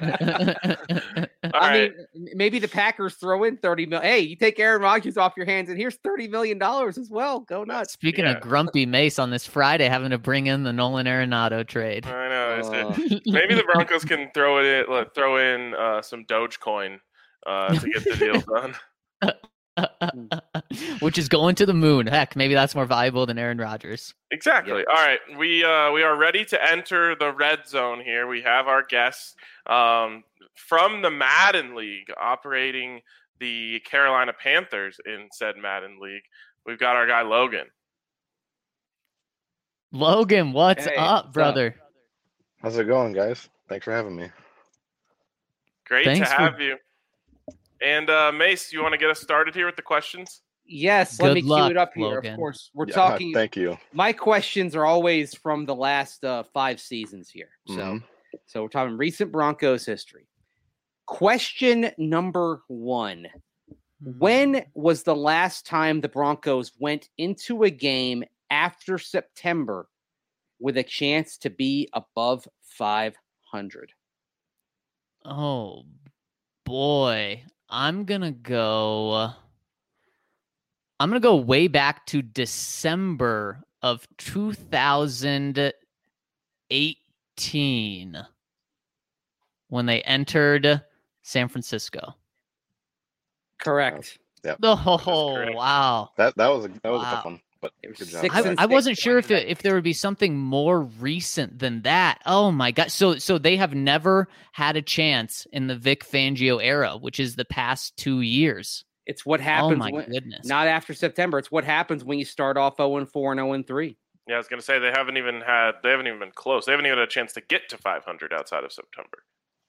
Right. Maybe the Packers throw in $30 million. Hey, you take Aaron Rodgers off your hands, and here's $30 million as well. Go nuts. Speaking of grumpy Mace on this Friday, having to bring in the Nolan Arenado trade. I know. Maybe the Broncos can throw in some Dogecoin to get the deal done. Which is going to the moon. Heck, maybe that's more valuable than Aaron Rodgers. Exactly. Yep. All right, we are ready to enter the red zone here. We have our guests from the Madden League, operating the Carolina Panthers in said Madden League. We've got our guy Logan. Logan, what's up, brother? How's it going, guys? Thanks for having me. Great to have you. And Mace, you want to get us started here with the questions? Yes, let me cue it up here. Logan. Of course, we're talking. Thank you. My questions are always from the last 5 seasons here. So we're talking recent Broncos history. Question number 1. When was the last time the Broncos went into a game after September with a chance to be above 500? Oh, boy. I'm going to go way back to December of 2018 when they entered San Francisco. Correct. Yeah. Oh, wow. That was a tough one, but good job. I wasn't sure if there would be something more recent than that. Oh my God. So they have never had a chance in the Vic Fangio era, which is the past 2 years. It's what happens. Oh my goodness. Not after September. It's what happens when you start off 0-4 and 0-3. Yeah, I was going to say they haven't even been close. They haven't even had a chance to get to 500 outside of September.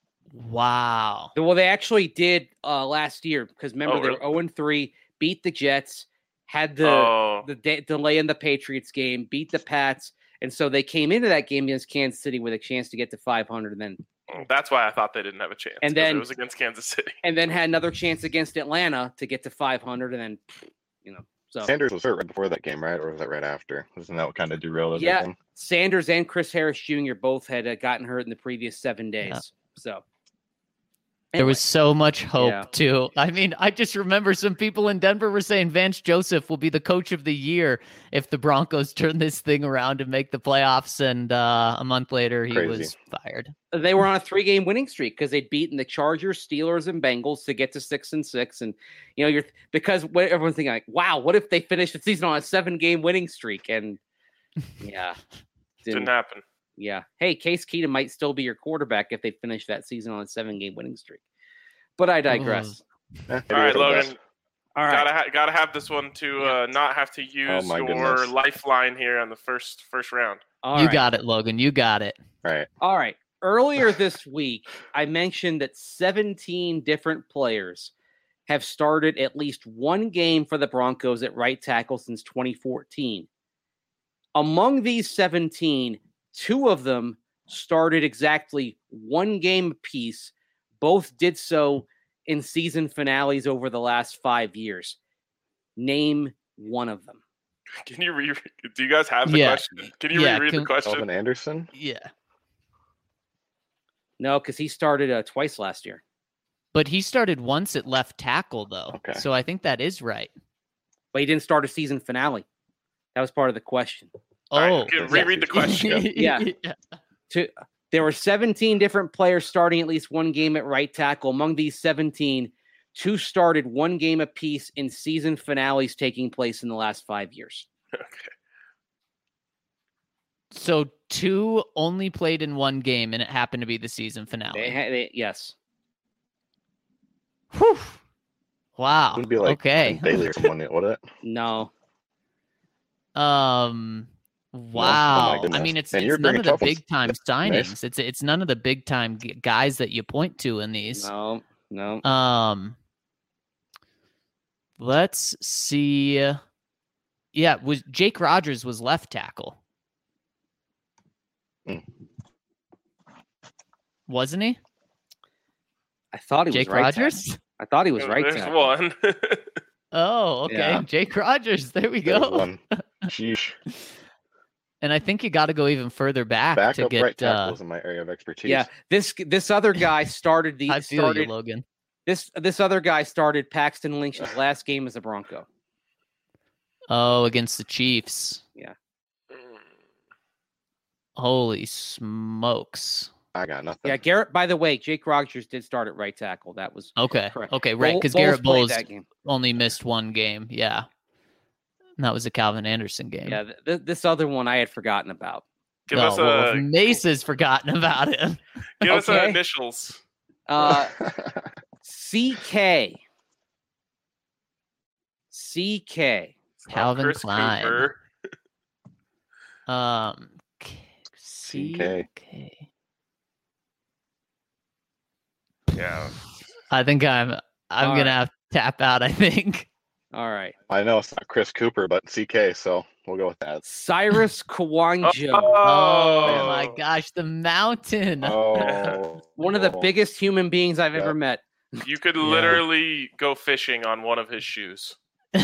Wow. Well, they actually did last year, because remember they were 0-3, beat the Jets, had the delay in the Patriots game, beat the Pats, and so they came into that game against Kansas City with a chance to get to 500, and then that's why I thought they didn't have a chance. And then it was against Kansas City, and then had another chance against Atlanta to get to 500, and then So Sanders was hurt right before that game, right? Or was that right after? Isn't that what kind of derailed everything? Yeah, Sanders and Chris Harris Jr. both had gotten hurt in the previous 7 days. Yeah. So there was so much hope, too. I just remember some people in Denver were saying Vance Joseph will be the coach of the year if the Broncos turn this thing around and make the playoffs. And a month later, he was fired. They were on a 3-game winning streak because they'd beaten the Chargers, Steelers, and Bengals to get to 6-6. And, because everyone's thinking, like, wow, what if they finish the season on a 7-game winning streak? And, didn't happen. Yeah. Hey, Case Keenum might still be your quarterback if they finish that season on a 7-game winning streak. But I digress. All right, Logan. All right. Gotta have this one to not have to use your lifeline here on the first round. You got it, Logan. You got it. All right. Earlier this week, I mentioned that 17 different players have started at least one game for the Broncos at right tackle since 2014. Among these 17, 2 of them started exactly one game apiece. Both did so in season finales over the last 5 years. Name one of them. Can you do you guys have the question? Can you reread the question? Kelvin Anderson? Yeah. No, because he started twice last year. But he started once at left tackle, though. Okay. So I think that is right. But he didn't start a season finale. That was part of the question. Oh. Right, reread the question. Yeah. There were 17 different players starting at least one game at right tackle. Among these 17, 2 started one game apiece in season finales taking place in the last 5 years. Okay. So 2 only played in one game, and it happened to be the season finale. Yes. Whew. Wow. Wouldn't be like okay. Bailey or someone, would it? No. Wow. goodness. I mean, it's And you're none of the bringing tough ones. big time signings. Nice. It's none of the big time guys that you point to in these. No. Let's see. Yeah, was Jake Rogers was left tackle. Wasn't he? I thought he Jake was right Rogers? tackle. I thought he was right There's tackle. one. Oh, okay. Yeah. Jake Rogers. There we There's go. one. Sheesh. And I think you got to go even further back to Backup get. right tackle is in my area of expertise. Yeah, this other guy started the I feel you, Logan. This other guy started Paxton Lynch's last game as a Bronco. Oh, against the Chiefs. Yeah. Holy smokes. I got nothing. Yeah, Garrett. By the way, Jake Rogers did start at right tackle. That was Okay. correct. Okay, right. Because Bowles Garrett played Bowles that game. only missed one game. Yeah. And that was a Calvin Anderson game. Yeah, this other one I had forgotten about. Give us a Mace has forgotten about it. give us Okay. initials. CK. Calvin Chris Klein. Cooper. CK. Yeah. I think I'm All gonna right. have to tap out, I think. All right. I know it's not Chris Cooper, but CK, so we'll go with that. Cyrus Kawanja. Oh my gosh, the mountain. Oh, One of the biggest human beings I've ever met. You could literally go fishing on one of his shoes.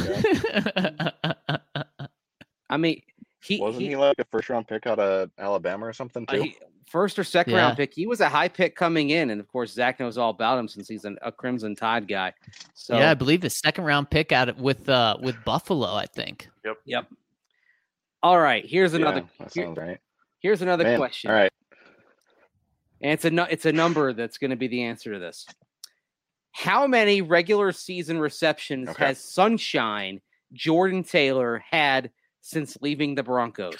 I mean, Wasn't he like a first round pick out of Alabama or something too? First or second Yeah. round pick. He was a high pick coming in, and of course Zach knows all about him since he's a Crimson Tide guy. So Yeah, I believe the second round pick with Buffalo, I think. Yep. All right. Here's another. That sounds right. Here's another Man, question. All right. And it's a number that's going to be the answer to this. How many regular season receptions has Sunshine Jordan Taylor had since leaving the Broncos?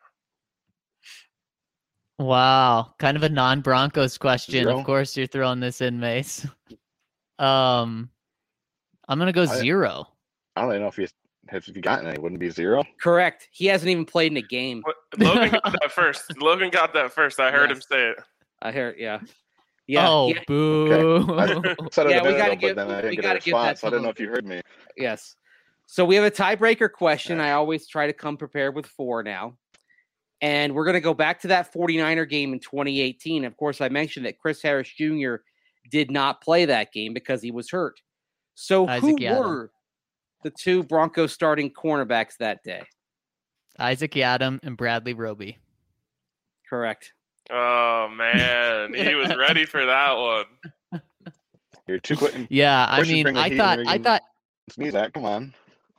Wow, kind of a non-Broncos question. 0. Of course, you're throwing this in, Mace. I'm gonna go 0. I don't even know if you gotten any. Wouldn't it be 0? Correct. He hasn't even played in a game. Logan got that first. I heard him say it. I heard. Yeah. Yeah. Oh, yeah. boo! I said it Yeah, a we minute gotta ago, give- but then I we didn't get gotta a give that response. So I didn't to know if you heard me. Yes. So we have a tiebreaker question. I always try to come prepared with 4 now. And we're going to go back to that 49er game in 2018. Of course, I mentioned that Chris Harris Jr. did not play that game because he was hurt. So Isaac who Yiadom. were the 2 Broncos starting cornerbacks that day? Isaac Yiadom and Bradley Roby. Correct. Oh man, he was ready for that one. You're too quick. Yeah, I Push and mean, bring the I heat thought, and I bring- thought. Sneeze that. Come on.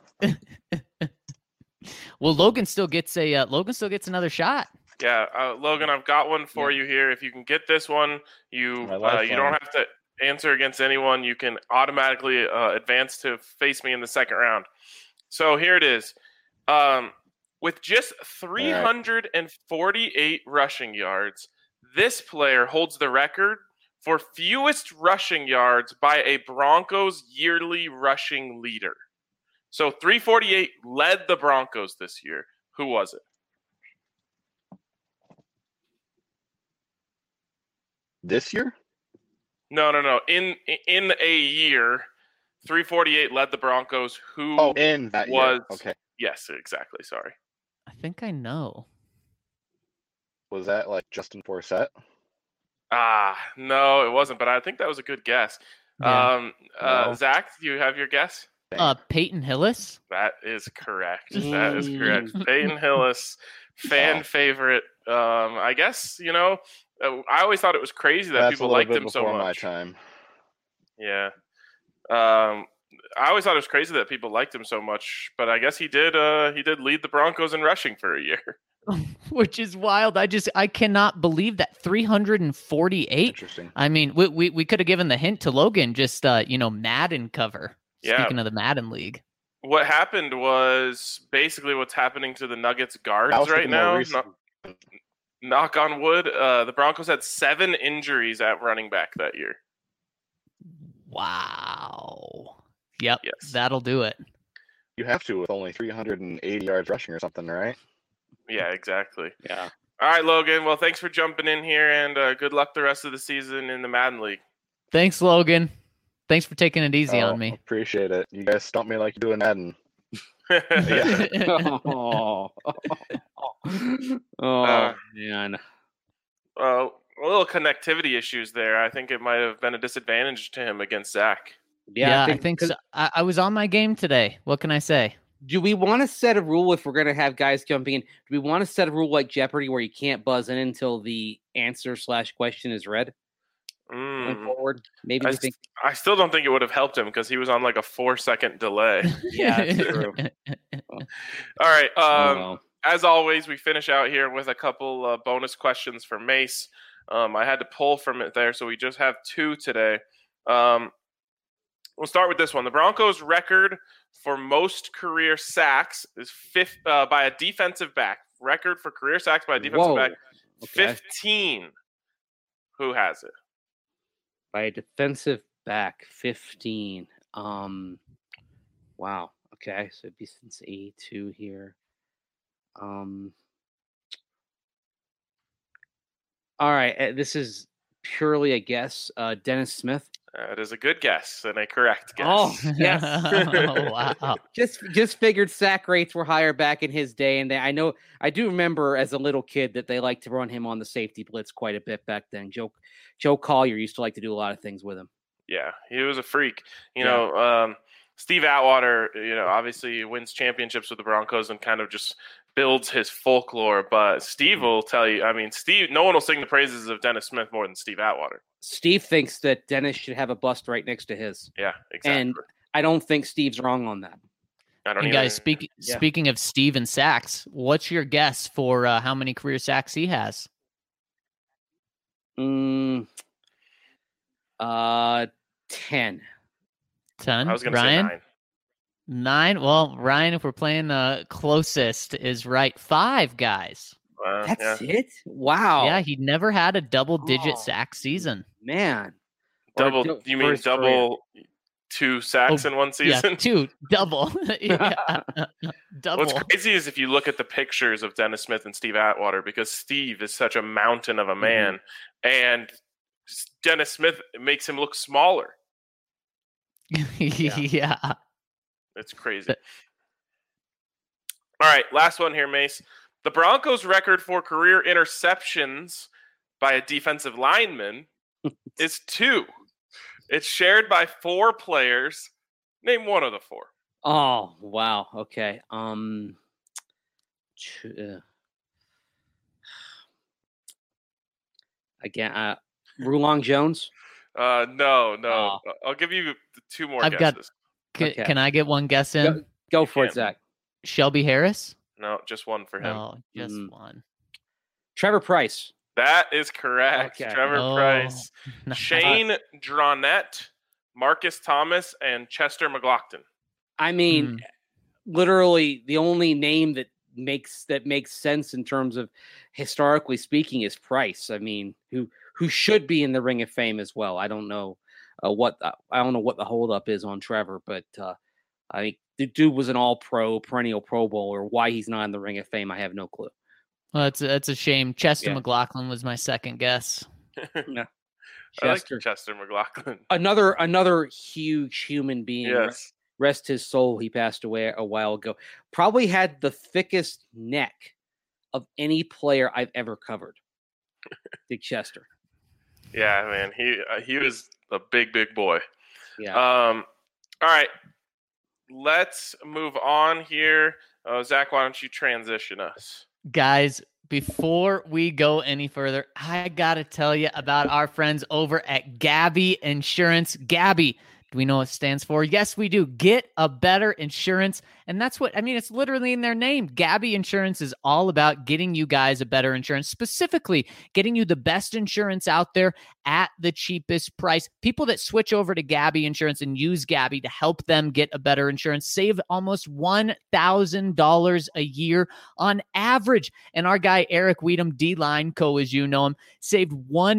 Well, Logan still gets another shot. Yeah, Logan, I've got one for you here. If you can get this one, you My lifeline. you don't have to answer against anyone. You can automatically advance to face me in the second round. So here it is. With just 348 rushing yards, this player holds the record for fewest rushing yards by a Broncos yearly rushing leader. So 348 led the Broncos this year. Who was it? This year? No. In a year, 348 led the Broncos. Who? Oh, in that was year. Okay. Yes, exactly. Sorry. I think I know. Was that like Justin Forsett? No, it wasn't. But I think that was a good guess. Yeah. Zach, do you have your guess? Peyton Hillis. That is correct. That is correct. Peyton Hillis, fan favorite. I guess, I always thought it was crazy that people liked him so much. My time. Yeah. I always thought it was crazy that people liked him so much, but I guess he did lead the Broncos in rushing for a year. Which is wild. I cannot believe that 348. Interesting. I mean, we could have given the hint to Logan, just Madden cover. Yeah. Speaking of the Madden League. What happened was basically what's happening to the Nuggets guards right now. Knock on wood. The Broncos had 7 injuries at running back that year. Wow. Yep. Yes. That'll do it. You have to with only 380 yards rushing or something, right? Yeah, exactly. Yeah. All right, Logan. Well, thanks for jumping in here, and good luck the rest of the season in the Madden League. Thanks, Logan. Thanks for taking it easy on me. Appreciate it. You guys stump me like you do in Madden. Man. Well, a little connectivity issues there. I think it might have been a disadvantage to him against Zach. Yeah, I think so. I was on my game today. What can I say? Do we want to set a rule if we're going to have guys jumping in? Do we want to set a rule like Jeopardy where you can't buzz in until the answer/question is read? Going forward, maybe I still don't think it would have helped him because he was on like a 4-second delay. Yeah, that's true. All right. As always, we finish out here with a couple bonus questions for Mace. I had to pull from it there, so we just have 2 today. We'll start with this one. The Broncos' record for most career sacks is by a defensive back. Record for career sacks by a defensive back, 15. Who has it? By a defensive back, 15. Wow. Okay, so it'd be since 82 here. All right, this is purely a guess. Dennis Smith. That is a good guess and a correct guess. Oh, yes. Oh, wow. Just figured sack rates were higher back in his day, and I do remember as a little kid that they liked to run him on the safety blitz quite a bit back then. Joe Collier used to like to do a lot of things with him. Yeah, he was a freak. Steve Atwater, obviously wins championships with the Broncos and kind of just builds his folklore. But Steve will tell you, no one will sing the praises of Dennis Smith more than Steve Atwater. Steve thinks that Dennis should have a bust right next to his. Yeah, exactly. And I don't think Steve's wrong on that. I don't. And guys, speaking of Steve and sacks, what's your guess for how many career sacks he has? 10. 10. I was going to say 9. 9. Well, Ryan, if we're playing closest, is right. 5, guys. That's it? Wow. Yeah, he never had a double-digit sack season. Man. Double? You mean double? 2 sacks in one season? Yeah, 2. Double. Double. What's crazy is if you look at the pictures of Dennis Smith and Steve Atwater, because Steve is such a mountain of a man, and Dennis Smith makes him look smaller. Yeah. It's crazy. All right, last one here, Mace. The Broncos' record for career interceptions by a defensive lineman is 2. It's shared by 4 players. Name one of the 4. Oh, wow. Okay. Again, Rulon Jones? No. I'll give you 2 more guesses. Can I get one guess in? Go for it, Zach. Shelby Harris? No, just one for him. No, just one. Trevor Price. That is correct. Okay. Trevor Price. Shane Dronette, Marcus Thomas, and Chester McLaughlin. I mean, literally the only name that makes sense in terms of historically speaking is Price. I mean, who should be in the Ring of Fame as well. I don't know what the holdup is on Trevor, but I think the dude was an all-pro, perennial Pro Bowler. Why he's not in the Ring of Fame, I have no clue. Well, that's a shame. Chester McLaughlin was my second guess. Yeah. I like Chester McLaughlin. Another huge human being. Yes. Rest his soul. He passed away a while ago. Probably had the thickest neck of any player I've ever covered. Big Chester. Yeah, man. He was a big boy. Yeah. All right. Let's move on here. Zach, why don't you transition us? Guys, before we go any further, I got to tell you about our friends over at Gabi Insurance. Gabi, do we know what it stands for? Yes, we do. Get a better insurance. And that's what, I mean, it's literally in their name. Gabi Insurance is all about getting you guys a better insurance, specifically getting you the best insurance out there at the cheapest price. People that switch over to Gabi Insurance and use Gabi to help them get a better insurance save almost $1,000 a year on average. And our guy, Eric Weedham, D-Line Co, as you know him, saved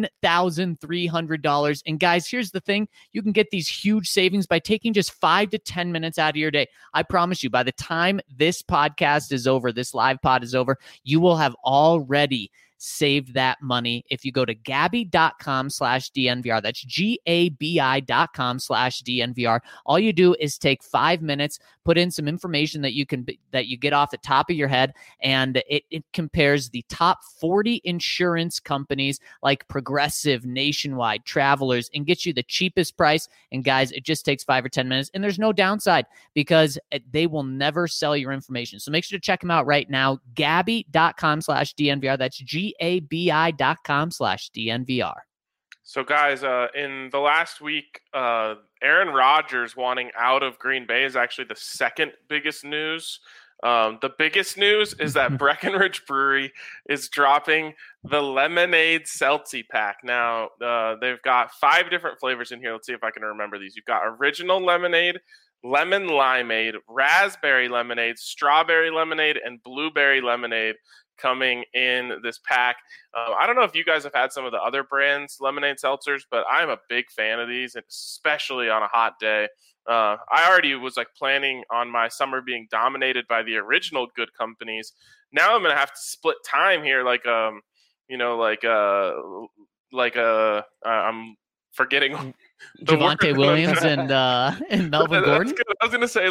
$1,300. And guys, here's the thing. You can get these huge savings by taking just 5 to 10 minutes out of your day. I promise you, by the time this podcast is over, this live pod is over, you will have already saved that money if you go to gabi.com/DNVR. That's GABI.com/DNVR. All you do is take 5 minutes, put in some information that you get off the top of your head, and it compares the top 40 insurance companies like Progressive, Nationwide, Travelers, and gets you the cheapest price. And guys, it just takes 5 or 10 minutes, and there's no downside because they will never sell your information. So make sure to check them out right now. Gabi.com/DNVR. That's GABI.com/DNVR. So, guys, in the last week, Aaron Rodgers wanting out of Green Bay is actually the second biggest news. The biggest news is that Breckenridge Brewery is dropping the Lemonade Seltzy pack. Now, they've got 5 different flavors in here. Let's see if I can remember these. You've got original lemonade, lemon limeade, raspberry lemonade, strawberry lemonade, and blueberry lemonade coming in this pack. I don't know if you guys have had some of the other brands lemonade seltzers, but I'm a big fan of these, especially on a hot day. I already was like planning on my summer being dominated by the original good companies. Now I'm gonna have to split time here, I'm forgetting Javonte Williams and Melvin Gordon. Good. I was gonna say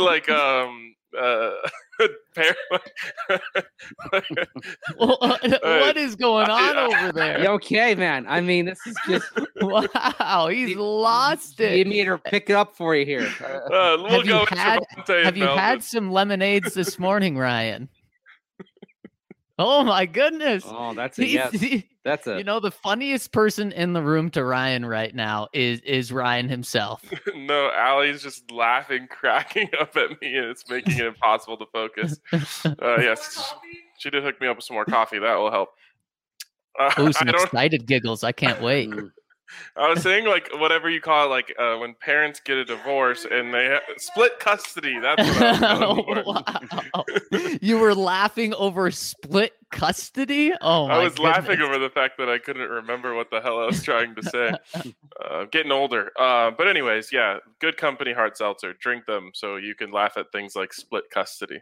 what is going on over there? You okay, man? I mean, this is just wow. He's lost it. You need to pick it up for you here. Have you had some lemonades this morning, Ryan? Oh my goodness! Oh, that's a yes. That's a. You know, the funniest person in the room to Ryan right now is Ryan himself. No, Allie's just laughing, cracking up at me, and it's making it impossible to focus. Yes, she did hook me up with some more coffee. That will help. Ooh, some excited giggles! I can't wait. I was saying, whatever you call it, when parents get a divorce and they split custody. That's what I was going for. Wow. You were laughing over split custody? Oh, my I was goodness. laughing over the fact that I couldn't remember what the hell I was trying to say. Getting older. But anyways, yeah, good company hard seltzer. Drink them so you can laugh at things like split custody.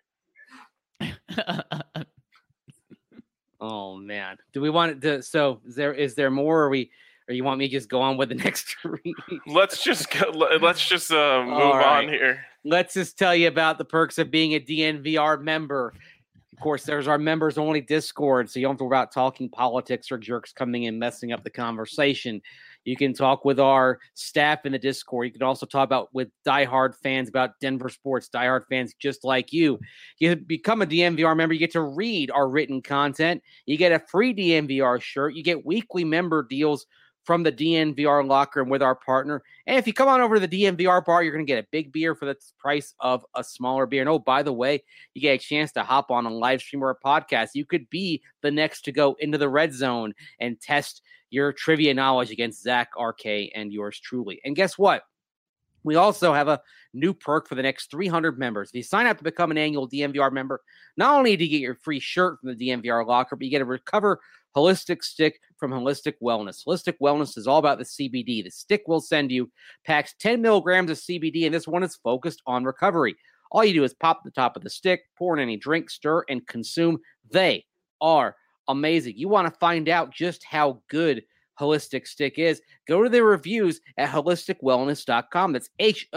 Oh, man. Do we want to? So is there more? Or you want me to just go on with the next read? Let's just move on here. Let's just tell you about the perks of being a DNVR member. Of course, there's our members only Discord, so you don't have to worry about talking politics or jerks coming in messing up the conversation. You can talk with our staff in the Discord. You can also talk with diehard fans about Denver sports, diehard fans just like you. You become a DNVR member, you get to read our written content. You get a free DNVR shirt. You get weekly member deals from the DNVR locker room with our partner. And if you come on over to the DNVR bar, you're going to get a big beer for the price of a smaller beer. And oh, by the way, you get a chance to hop on a live stream or a podcast. You could be the next to go into the red zone and test your trivia knowledge against Zach, RK, and yours truly. And guess what? We also have a new perk for the next 300 members. If you sign up to become an annual DNVR member, not only do you get your free shirt from the DNVR locker, but you get a Recover Holistic Stick from Holistic Wellness. Holistic Wellness is all about the CBD. The stick will send you packs 10 milligrams of CBD, and this one is focused on recovery. All you do is pop the top of the stick, pour in any drink, stir, and consume. They are amazing. You want to find out just how good Holistic Stick is, go to the reviews at holisticwellness.com. That's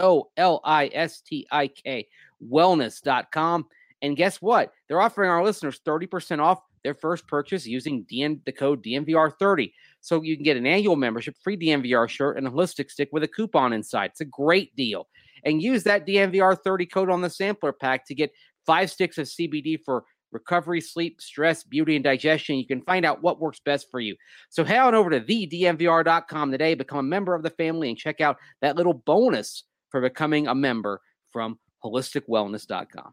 HOLISTIK wellness.com. And guess what? They're offering our listeners 30% off their first purchase using the code DNVR30. So you can get an annual membership, free DNVR shirt, and a holistic stick with a coupon inside. It's a great deal. And use that DNVR30 code on the sampler pack to get 5 sticks of CBD for recovery, sleep, stress, beauty, and digestion. You can find out what works best for you. So head on over to thednvr.com today, become a member of the family, and check out that little bonus for becoming a member from holisticwellness.com.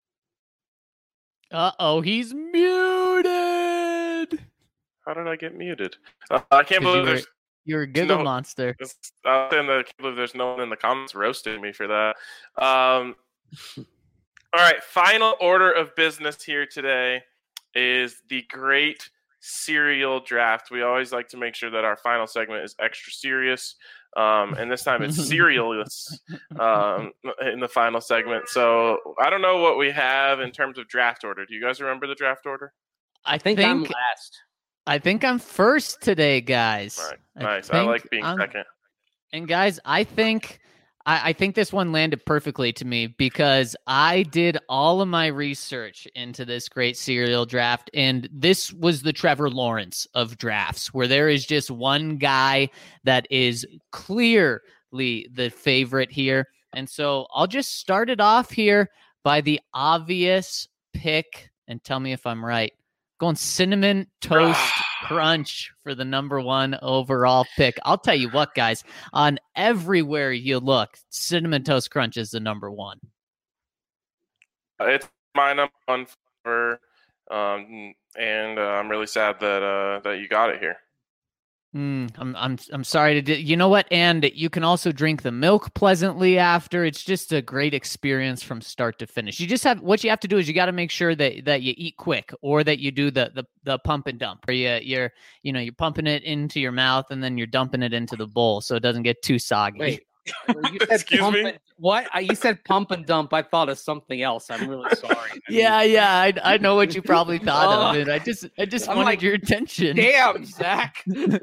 Uh-oh, he's muted. How did I get muted? I can't believe you're a giggle monster. I can't believe there's no one in the comments roasting me for that. All right, final order of business here today is the great cereal draft. We always like to make sure that our final segment is extra serious. And this time it's serialist in the final segment. So I don't know what we have in terms of draft order. Do you guys remember the draft order? I think I'm last. I think I'm first today, guys. All right, nice. I like being second. And guys, I think this one landed perfectly to me because I did all of my research into this great cereal draft, and this was the Trevor Lawrence of drafts, where there is just one guy that is clearly the favorite here. And so I'll just start it off here by the obvious pick, and tell me if I'm right. Going Cinnamon Toast Crunch for the number 1 overall pick. I'll tell you what, guys, on everywhere you look, Cinnamon Toast Crunch is the number 1. It's my number 1 for, and I'm really sad that you got it here. I'm sorry to you know what, and you can also drink the milk pleasantly after. It's just a great experience from start to finish. You just have what you have to do is you got to make sure that you eat quick, or that you do the pump and dump, or you're pumping it into your mouth and then you're dumping it into the bowl so it doesn't get too soggy. Wait, you said excuse me? What? You said pump and dump. I thought of something else. I'm really sorry. I know what you probably thought of it. I just wanted your attention. Damn, Zach.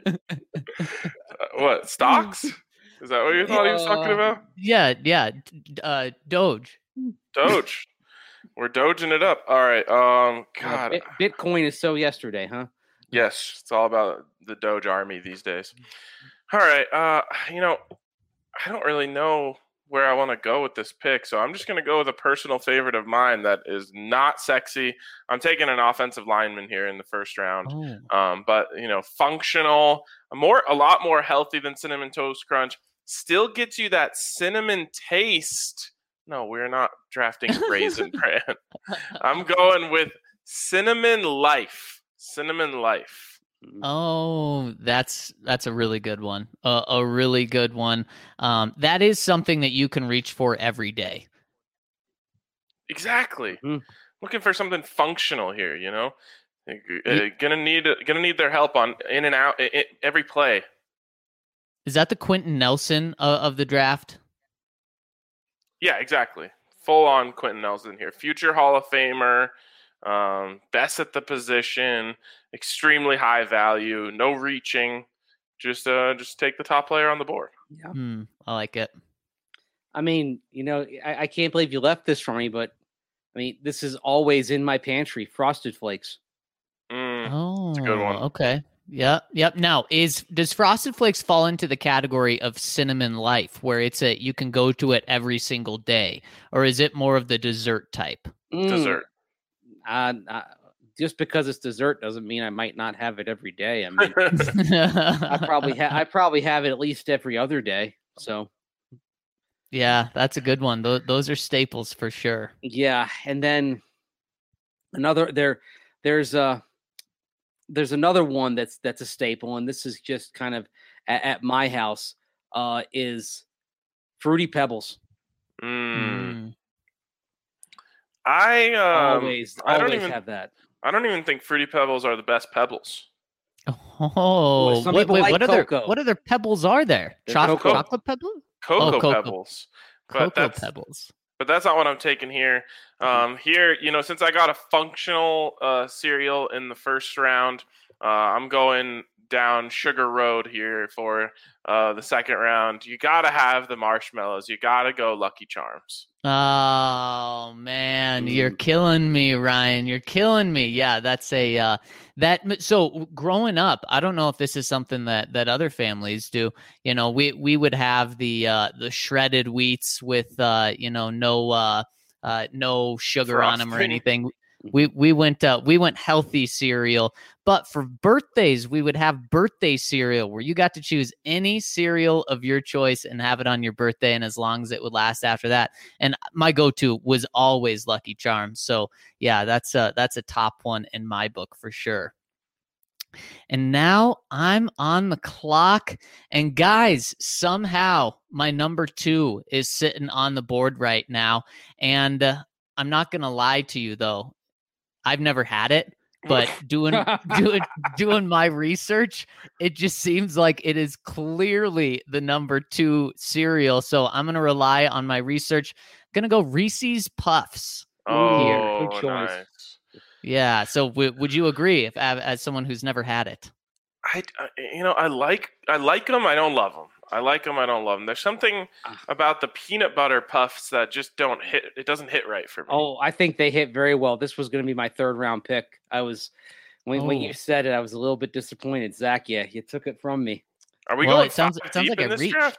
What, stocks? Is that what you thought he was talking about? Yeah. Doge. We're doging it up. All right. God. Bitcoin is so yesterday, huh? Yes, it's all about the Doge army these days. All right. I don't really know where I want to go with this pick, so I'm just going to go with a personal favorite of mine that is not sexy. I'm taking an offensive lineman here in the first round, but functional, a lot more healthy than Cinnamon Toast Crunch. Still gets you that cinnamon taste. No, we're not drafting Raisin Bran. I'm going with Cinnamon Life. Cinnamon Life. Oh, that's a really good one. A really good one. That is something that you can reach for every day. Exactly. Looking for something functional here. Gonna need their help on in and out every play. Is that the Quentin Nelson of the draft? Yeah, exactly. Full on Quentin Nelson here. Future Hall of Famer. Best at the position, extremely high value, no reaching, just take the top player on the board. Yeah, I like it. I mean, I can't believe you left this for me, but I mean, this is always in my pantry. Frosted Flakes. That's a good one. Okay. Yep. Now, does Frosted Flakes fall into the category of Cinnamon Life, where you can go to it every single day, or is it more of the dessert type? Dessert. Just because it's dessert doesn't mean I might not have it every day. I mean, I probably have it at least every other day. So, yeah, that's a good one. Those are staples for sure. Yeah, and then there's another one that's a staple, and this is just kind of at my house is Fruity Pebbles. I always have that. I don't even think Fruity Pebbles are the best pebbles. Oh, what other pebbles are there? Chocolate pebbles? Cocoa Pebbles. Pebbles. But that's not what I'm taking here. Here, since I got a functional cereal in the first round, I'm going down Sugar Road here for the second round, you got to have the marshmallows. You got to go Lucky Charms. Oh man, you're killing me, Ryan. You're killing me. Yeah, that's a so growing up, I don't know if this is something that other families do. You know, we would have the shredded wheats with no sugar on them or anything. We went healthy cereal, but for birthdays we would have birthday cereal where you got to choose any cereal of your choice and have it on your birthday, and as long as it would last after that. And my go-to was always Lucky Charms. So yeah, that's a top one in my book for sure. And now I'm on the clock, and guys, somehow my number 2 is sitting on the board right now, and I'm not gonna lie to you though. I've never had it, but doing my research, it just seems like it is clearly the number 2 cereal. So I'm going to rely on my research. I'm going to go Reese's Puffs. Oh, Good choice. Nice. Yeah. So would you agree as someone who's never had it? I like them. I don't love them. I like them. I don't love them. There's something about the peanut butter puffs that just don't hit. It doesn't hit right for me. Oh, I think they hit very well. This was going to be my 3rd round pick. I was when you said it, I was a little bit disappointed. Zach, yeah, you took it from me. Are we going? It sounds like a reach. Draft?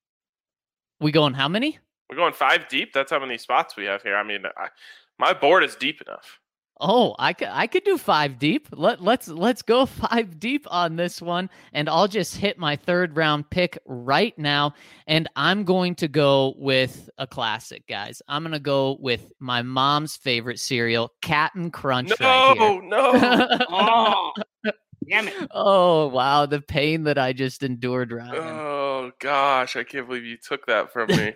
We going how many? We're going 5 deep. That's how many spots we have here. I mean, my board is deep enough. Oh, I could do 5 deep. Let's go 5 deep on this one, and I'll just hit my 3rd round pick right now, and I'm going to go with a classic, guys. I'm going to go with my mom's favorite cereal, Cap'n Crunch. No. Oh, damn it. Oh, wow, the pain that I just endured, Ryan. Oh gosh, I can't believe you took that from me.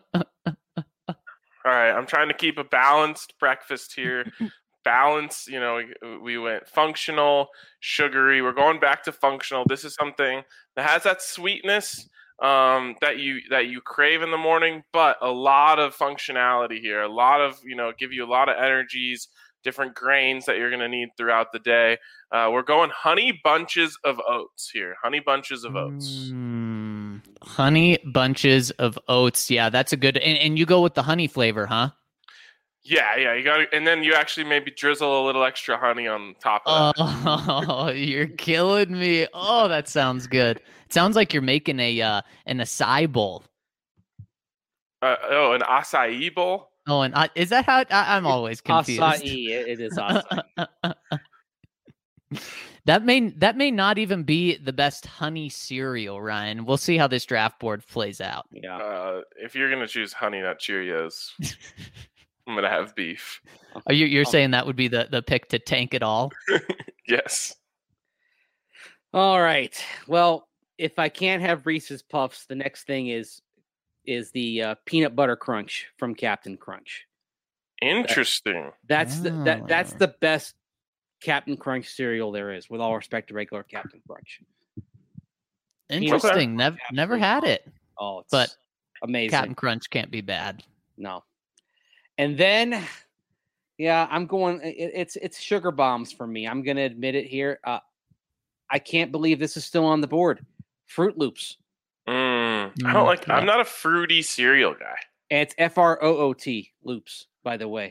All right, I'm trying to keep a balanced breakfast here. Balance, we went functional, sugary. We're going back to functional. This is something that has that sweetness that you crave in the morning, but a lot of functionality here. A lot of give you a lot of energies, different grains that you're going to need throughout the day. We're going Honey Bunches of Oats here. Honey Bunches of Oats. Honey Bunches of Oats. Yeah, that's a good. And you go with the honey flavor, huh? Yeah, you got to, and then you actually maybe drizzle a little extra honey on top of that. Oh, you're killing me. Oh, that sounds good. It sounds like you're making an acai bowl. An acai bowl? Oh, and is that how I'm always confused? Acai, it is acai. That may not even be the best honey cereal, Ryan. We'll see how this draft board plays out. Yeah. If you're gonna choose Honey Nut Cheerios, I'm gonna have beef. You're saying that would be the pick to tank it all? Yes. All right. Well, if I can't have Reese's Puffs, the next thing is the peanut butter crunch from Captain Crunch. Interesting. That's the best Captain Crunch cereal there is, with all respect to regular Captain Crunch. Interesting. Never had it. Oh, but amazing. Captain Crunch can't be bad. No. And then, yeah, I'm going. It's sugar bombs for me. I'm going to admit it here. I can't believe this is still on the board. Fruit Loops. I don't like. I'm not a fruity cereal guy. And it's FROOT Loops, by the way.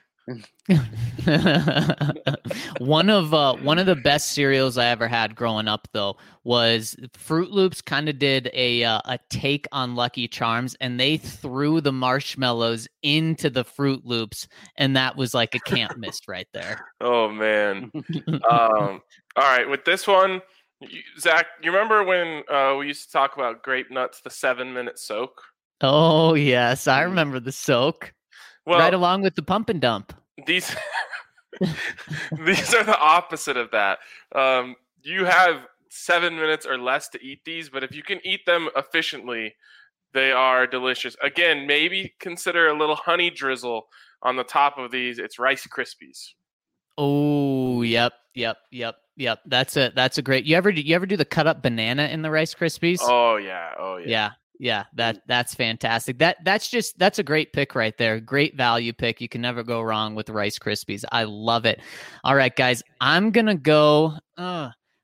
One of the best cereals I ever had growing up, though, was Fruit Loops. Kind of did a take on Lucky Charms, and they threw the marshmallows into the Fruit Loops, and that was like a can't miss right there. Oh man! All right, with this one, Zach, you remember when we used to talk about grape nuts, the 7-minute soak? Oh yes, I remember the soak. Well, right along with the pump and dump. These are the opposite of that. You have 7 minutes or less to eat these, but if you can eat them efficiently, they are delicious. Again, maybe consider a little honey drizzle on the top of these. It's Rice Krispies. Oh, yep. That's a great. You ever do the cut up banana in the Rice Krispies? Oh yeah. Yeah, that's fantastic. That's a great pick right there. Great value pick. You can never go wrong with Rice Krispies. I love it. All right, guys, I'm gonna go.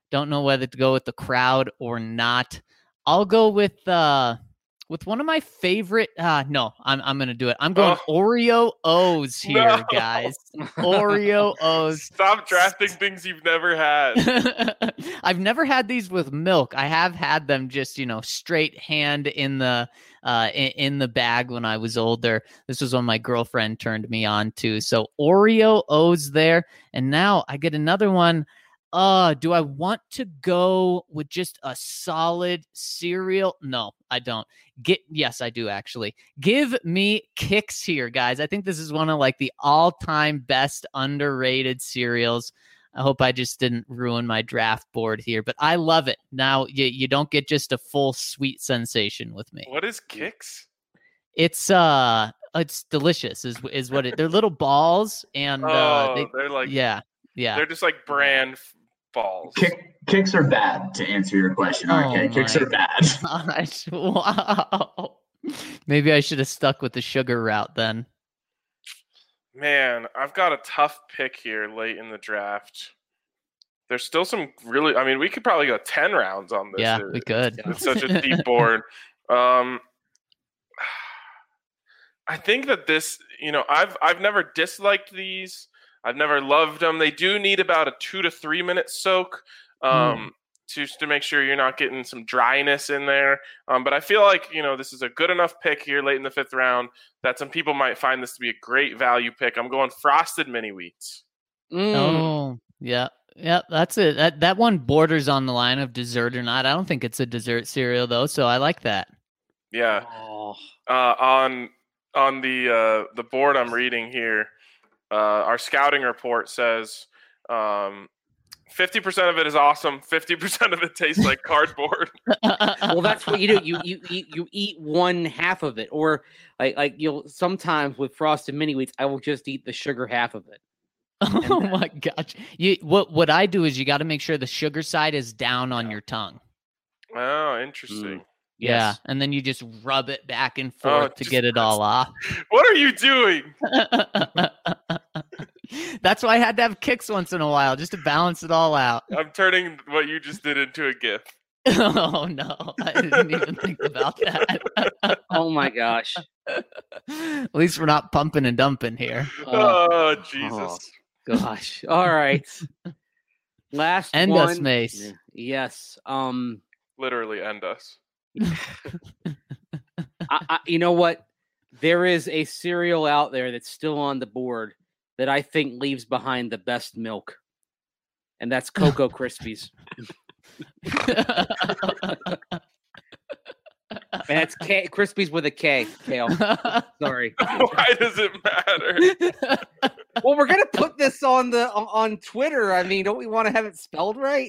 Don't know whether to go with the crowd or not. I'll go with one of my favorite. No, I'm gonna do it. I'm going Oreo O's here, guys. Oreo O's. Stop drafting things you've never had. I've never had these with milk. I have had them just straight hand in the bag when I was older. This was when my girlfriend turned me on to. So Oreo O's there, and now I get another one. Do I want to go with just a solid cereal? No, I don't. Yes, I do actually. Give me Kix here, guys. I think this is one of the all-time best underrated cereals. I hope I just didn't ruin my draft board here, but I love it. Now you don't get just a full sweet sensation with me. What is Kix? It's delicious is what they're little balls and they're yeah. They're just like brand balls. Kicks are bad, to answer your question. Okay, Kicks are bad. Gosh, wow. Maybe I should have stuck with the sugar route then. Man, I've got a tough pick here late in the draft. There's still some really. I mean, we could probably go 10 rounds on this. Yeah, we could. It's such a deep board. I think that this. I've never disliked these. I've never loved them. They do need about a 2 to 3 minute soak just to make sure you're not getting some dryness in there. But I feel like, this is a good enough pick here late in the 5th round that some people might find this to be a great value pick. I'm going Frosted Mini Wheats. Oh, yeah. Yeah, that's it. That one borders on the line of dessert or not. I don't think it's a dessert cereal, though, so I like that. Yeah. On the board I'm reading here, our scouting report says 50% of it is awesome. 50% of it tastes like cardboard. Well, that's what you do. You eat one half of it, or you'll sometimes with Frosted Mini Wheats, I will just eat the sugar half of it. Oh my gosh! What I do is you got to make sure the sugar side is down on your tongue. Oh, interesting. Yeah, and then you just rub it back and forth to get it all off. What are you doing? That's why I had to have Kix once in a while, just to balance it all out. I'm turning what you just did into a GIF. Oh, no. I didn't even think about that. Oh, my gosh. At least we're not pumping and dumping here. Oh, Jesus. Oh, gosh. All right. Last End one. us, Mace. Yes. Literally end us. You know what? There is a cereal out there that's still on the board that I think leaves behind the best milk, and that's Cocoa Krispies. And it's Krispies with a K. Kale. Sorry. Why does it matter? Well, we're gonna put this on Twitter. I mean, don't we want to have it spelled right?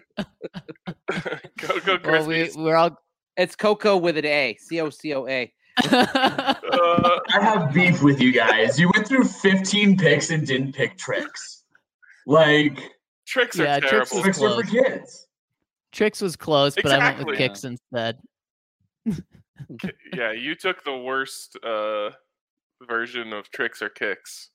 Cocoa Krispies. It's Cocoa with an A. COCOA. I have beef with you guys. You went through 15 picks and didn't pick Trix. Trix are terrible. Trix are for kids. Trix was close, but I went with Kix instead. Yeah, you took the worst version of Trix or Kix.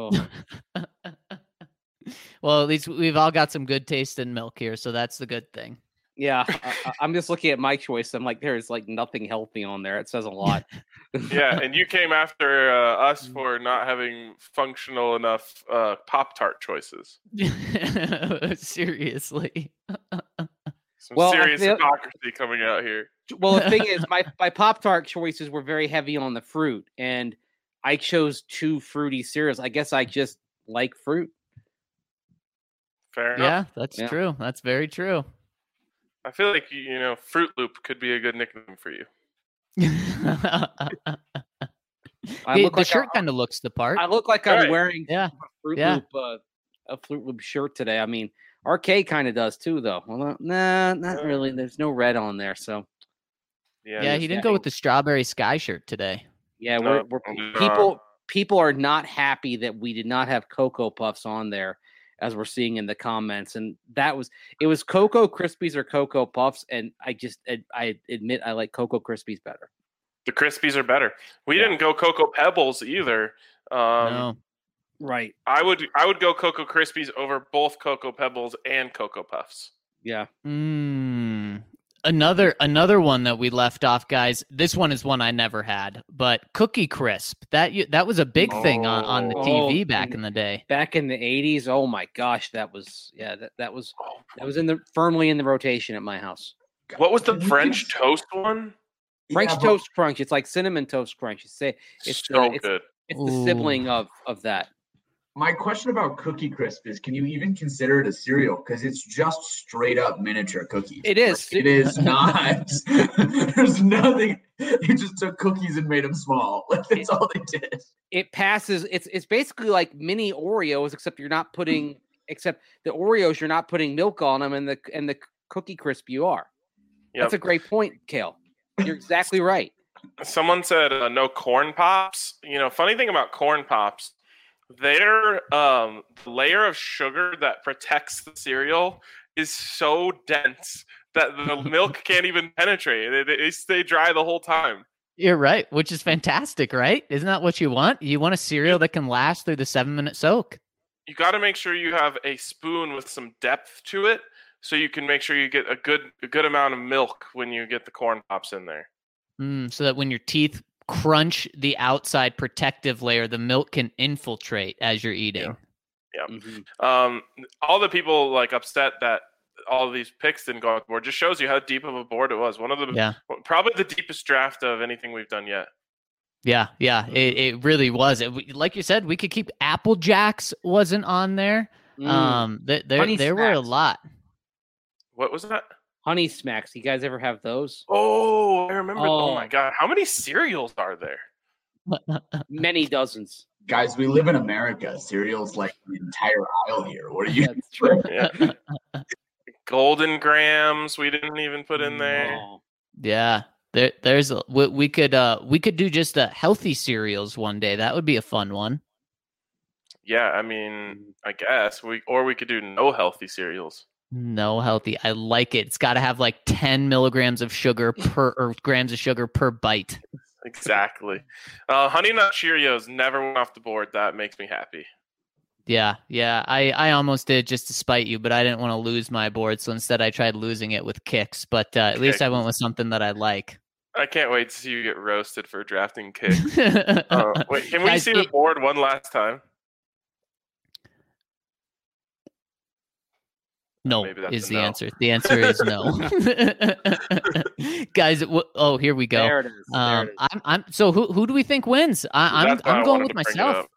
Well, at least we've all got some good taste in milk here, so that's the good thing. Yeah, I'm just looking at my choice. I'm like, there's nothing healthy on there. It says a lot. Yeah, and you came after us for not having functional enough Pop-Tart choices. Seriously. Some serious hypocrisy coming out here. Well, the thing is, my Pop-Tart choices were very heavy on the fruit, and I chose 2 fruity cereals. I guess I just like fruit. Fair enough. Yeah, that's true. That's very true. I feel like Fruit Loop could be a good nickname for you. The shirt kind of looks the part. I look like I'm wearing a Fruit Loop shirt today. I mean, RK kind of does too, though. Well, not really. There's no red on there, so. Yeah, he didn't go with the Strawberry Sky shirt today. Yeah, people are not happy that we did not have Cocoa Puffs on there, as we're seeing in the comments, and it was Cocoa Krispies or Cocoa Puffs, and I admit I like Cocoa Krispies better. The Krispies are better. We didn't go Cocoa Pebbles either. No. Right. I would go Cocoa Krispies over both Cocoa Pebbles and Cocoa Puffs. Yeah. Another one that we left off, guys. This one is one I never had, but Cookie Crisp. That was a big thing on the TV back in the day. Back in the 80s. Oh my gosh, that was firmly in the rotation at my house. What was the French toast one? French Toast Crunch. It's like Cinnamon Toast Crunch. It's good. It's the sibling of that. My question about Cookie Crisp is, can you even consider it a cereal? Because it's just straight up miniature cookies. It is. It is not. There's nothing. It just took cookies and made them small. That's all they did. It passes. It's basically like mini Oreos, except the Oreos you're not putting milk on them, and the Cookie Crisp you are. Yep. That's a great point, Kale. You're exactly right. Someone said no corn pops. Funny thing about corn pops. Their layer of sugar that protects the cereal is so dense that the milk can't even penetrate. They stay dry the whole time. You're right, which is fantastic, right? Isn't that what you want? You want a cereal that can last through the 7-minute soak. You got to make sure you have a spoon with some depth to it, so you can make sure you get a good amount of milk when you get the corn pops in there. So that when your teeth crunch the outside protective layer, the milk can infiltrate as you're eating. Yeah. Mm-hmm. All the people upset that all of these picks didn't go off the board just shows you how deep of a board it was. One of the probably the deepest draft of anything we've done yet. Yeah, it really was. Like you said, we could keep Apple Jacks wasn't on there. There were a lot. What was that? Honey Smacks. You guys ever have those? Oh, I remember. Oh my God. How many cereals are there? Many dozens. Guys, we live in America. Cereals like the entire aisle here. What are you? That's true. Golden Grams. We didn't even put in there. Oh. Yeah. We could do just healthy cereals one day. That would be a fun one. Yeah. I mean, I guess we could do no healthy cereals. No healthy. I like it. It's got to have 10 milligrams of sugar grams of sugar per bite. Exactly. Honey Nut Cheerios never went off the board. That makes me happy. Yeah. I almost did just to spite you, but I didn't want to lose my board, so instead I tried losing it with Kicks. But at least I went with something that I like. I can't wait to see you get roasted for drafting Kicks. Wait, can we see the board one last time? No is the answer. The answer is no. Guys, here we go. There it is. I'm so who do we think wins? I'm going with myself.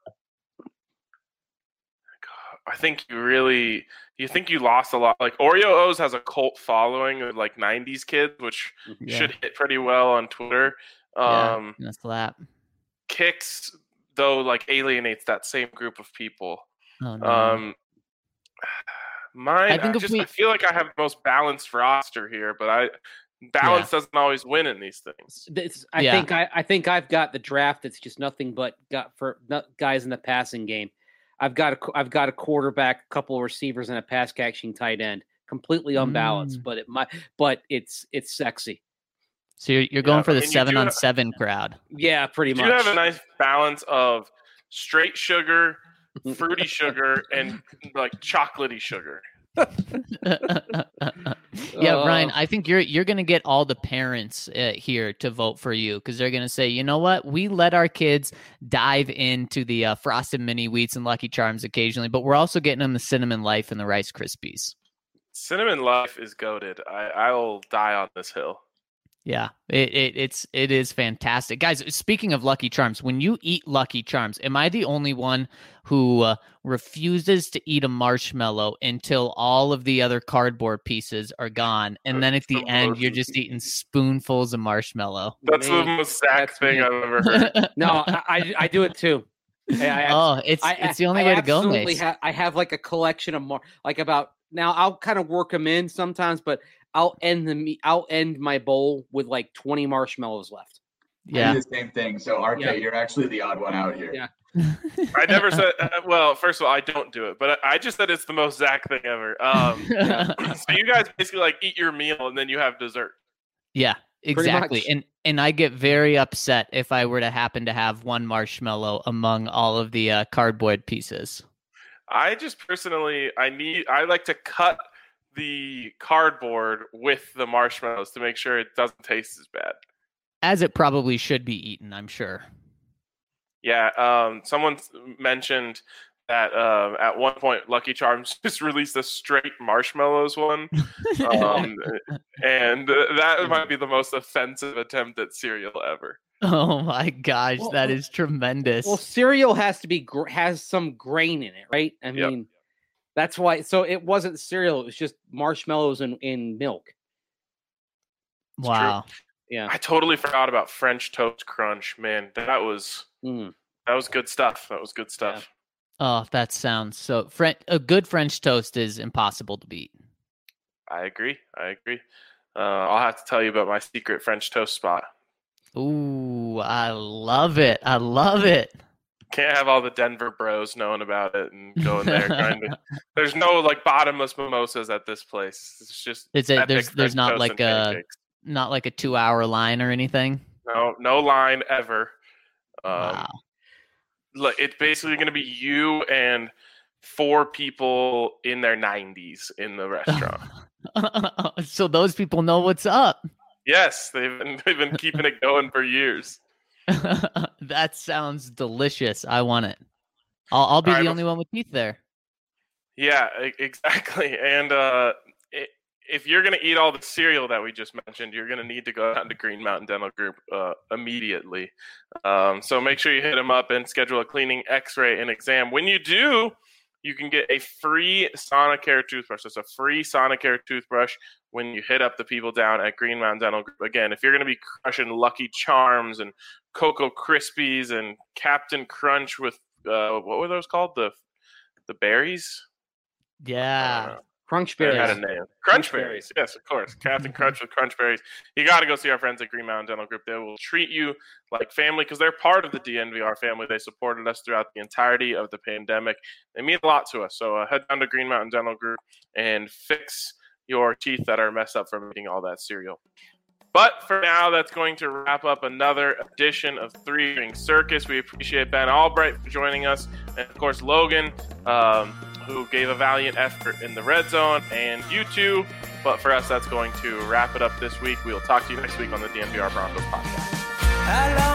I think you think you lost a lot. Oreo O's has a cult following of 90s kids, which should hit pretty well on Twitter. That's that. Kicks though alienates that same group of people. Oh, no. Mine, I feel like I have the most balanced roster here, but balance doesn't always win in these things. I think I've got the draft that's just nothing but guys in the passing game. I've got a quarterback, a couple of receivers, and a pass catching tight end. Completely unbalanced, but it's sexy. So you're going for the 7-on-7 crowd. Yeah, pretty much. You have a nice balance of straight sugar, fruity sugar, and chocolatey sugar. Ryan, I think you're gonna get all the parents here to vote for you because they're gonna say, you know what, we let our kids dive into the Frosted Mini Wheats and Lucky Charms occasionally, but we're also getting them the Cinnamon Life and the Rice Krispies. Cinnamon Life is goated. I will die on this hill. Yeah, it is fantastic. Guys, speaking of Lucky Charms, when you eat Lucky Charms, am I the only one who refuses to eat a marshmallow until all of the other cardboard pieces are gone? And then at the end, you're just eating spoonfuls of marshmallow. That's the most Zach thing I've ever heard. No, I do it too. It's the only way to go, Mace. I have a collection of more, now I'll kind of work them in sometimes, but I'll end my bowl with 20 marshmallows left. Yeah, I do the same thing. So RK, you're actually the odd one out here. Yeah. I never said. Well, first of all, I don't do it, but I just said it's the most Zach thing ever. So you guys basically eat your meal and then you have dessert. Yeah, exactly. And I get very upset if I were to happen to have one marshmallow among all of the cardboard pieces. I just personally, I like to cut the cardboard with the marshmallows to make sure it doesn't taste as bad. As it probably should be eaten, I'm sure. Yeah, someone mentioned that at one point Lucky Charms just released a straight marshmallows one, and that might be the most offensive attempt at cereal ever. Oh my gosh, that is tremendous. Well, cereal has to be has some grain in it, right? I mean, that's why. So it wasn't cereal; it was just marshmallows in milk. Wow. Yeah, I totally forgot about French Toast Crunch. Man, that was good stuff. That was good stuff. Yeah. Oh, that sounds so. A good French toast is impossible to beat. I agree. I'll have to tell you about my secret French toast spot. Ooh, I love it. Can't have all the Denver bros knowing about it and going there. There's no like bottomless mimosas at this place. It's just there's not like a 2-hour line or anything. No line ever. Wow. Look, it's basically going to be you and 4 people in their 90s in the restaurant. So those people know what's up. Yes, they've been keeping it going for years. That sounds delicious. I want it. I'll be the only one with teeth there. Yeah, exactly. And if you're going to eat all the cereal that we just mentioned, you're going to need to go down to Green Mountain Dental Group immediately. So make sure you hit them up and schedule a cleaning, x-ray, and exam. When you do, you can get a free Sonicare toothbrush. It's a free Sonicare toothbrush when you hit up the people down at Green Mountain Dental Group. Again, if you're going to be crushing Lucky Charms and Cocoa Krispies and Captain Crunch with, what were those called? The berries? Yeah. Crunch Berries. Had a name. Crunch Berries. Yes, of course. Captain Crunch with Crunch Berries. You got to go see our friends at Green Mountain Dental Group. They will treat you like family because they're part of the DNVR family. They supported us throughout the entirety of the pandemic. They mean a lot to us. So head down to Green Mountain Dental Group and fix your teeth that are messed up from eating all that cereal. But for now, that's going to wrap up another edition of Three Ring Circus. We appreciate Ben Albright for joining us. And, of course, Logan, who gave a valiant effort in the red zone, and you too. But for us, that's going to wrap it up this week. We will talk to you next week on the DNVR Broncos podcast.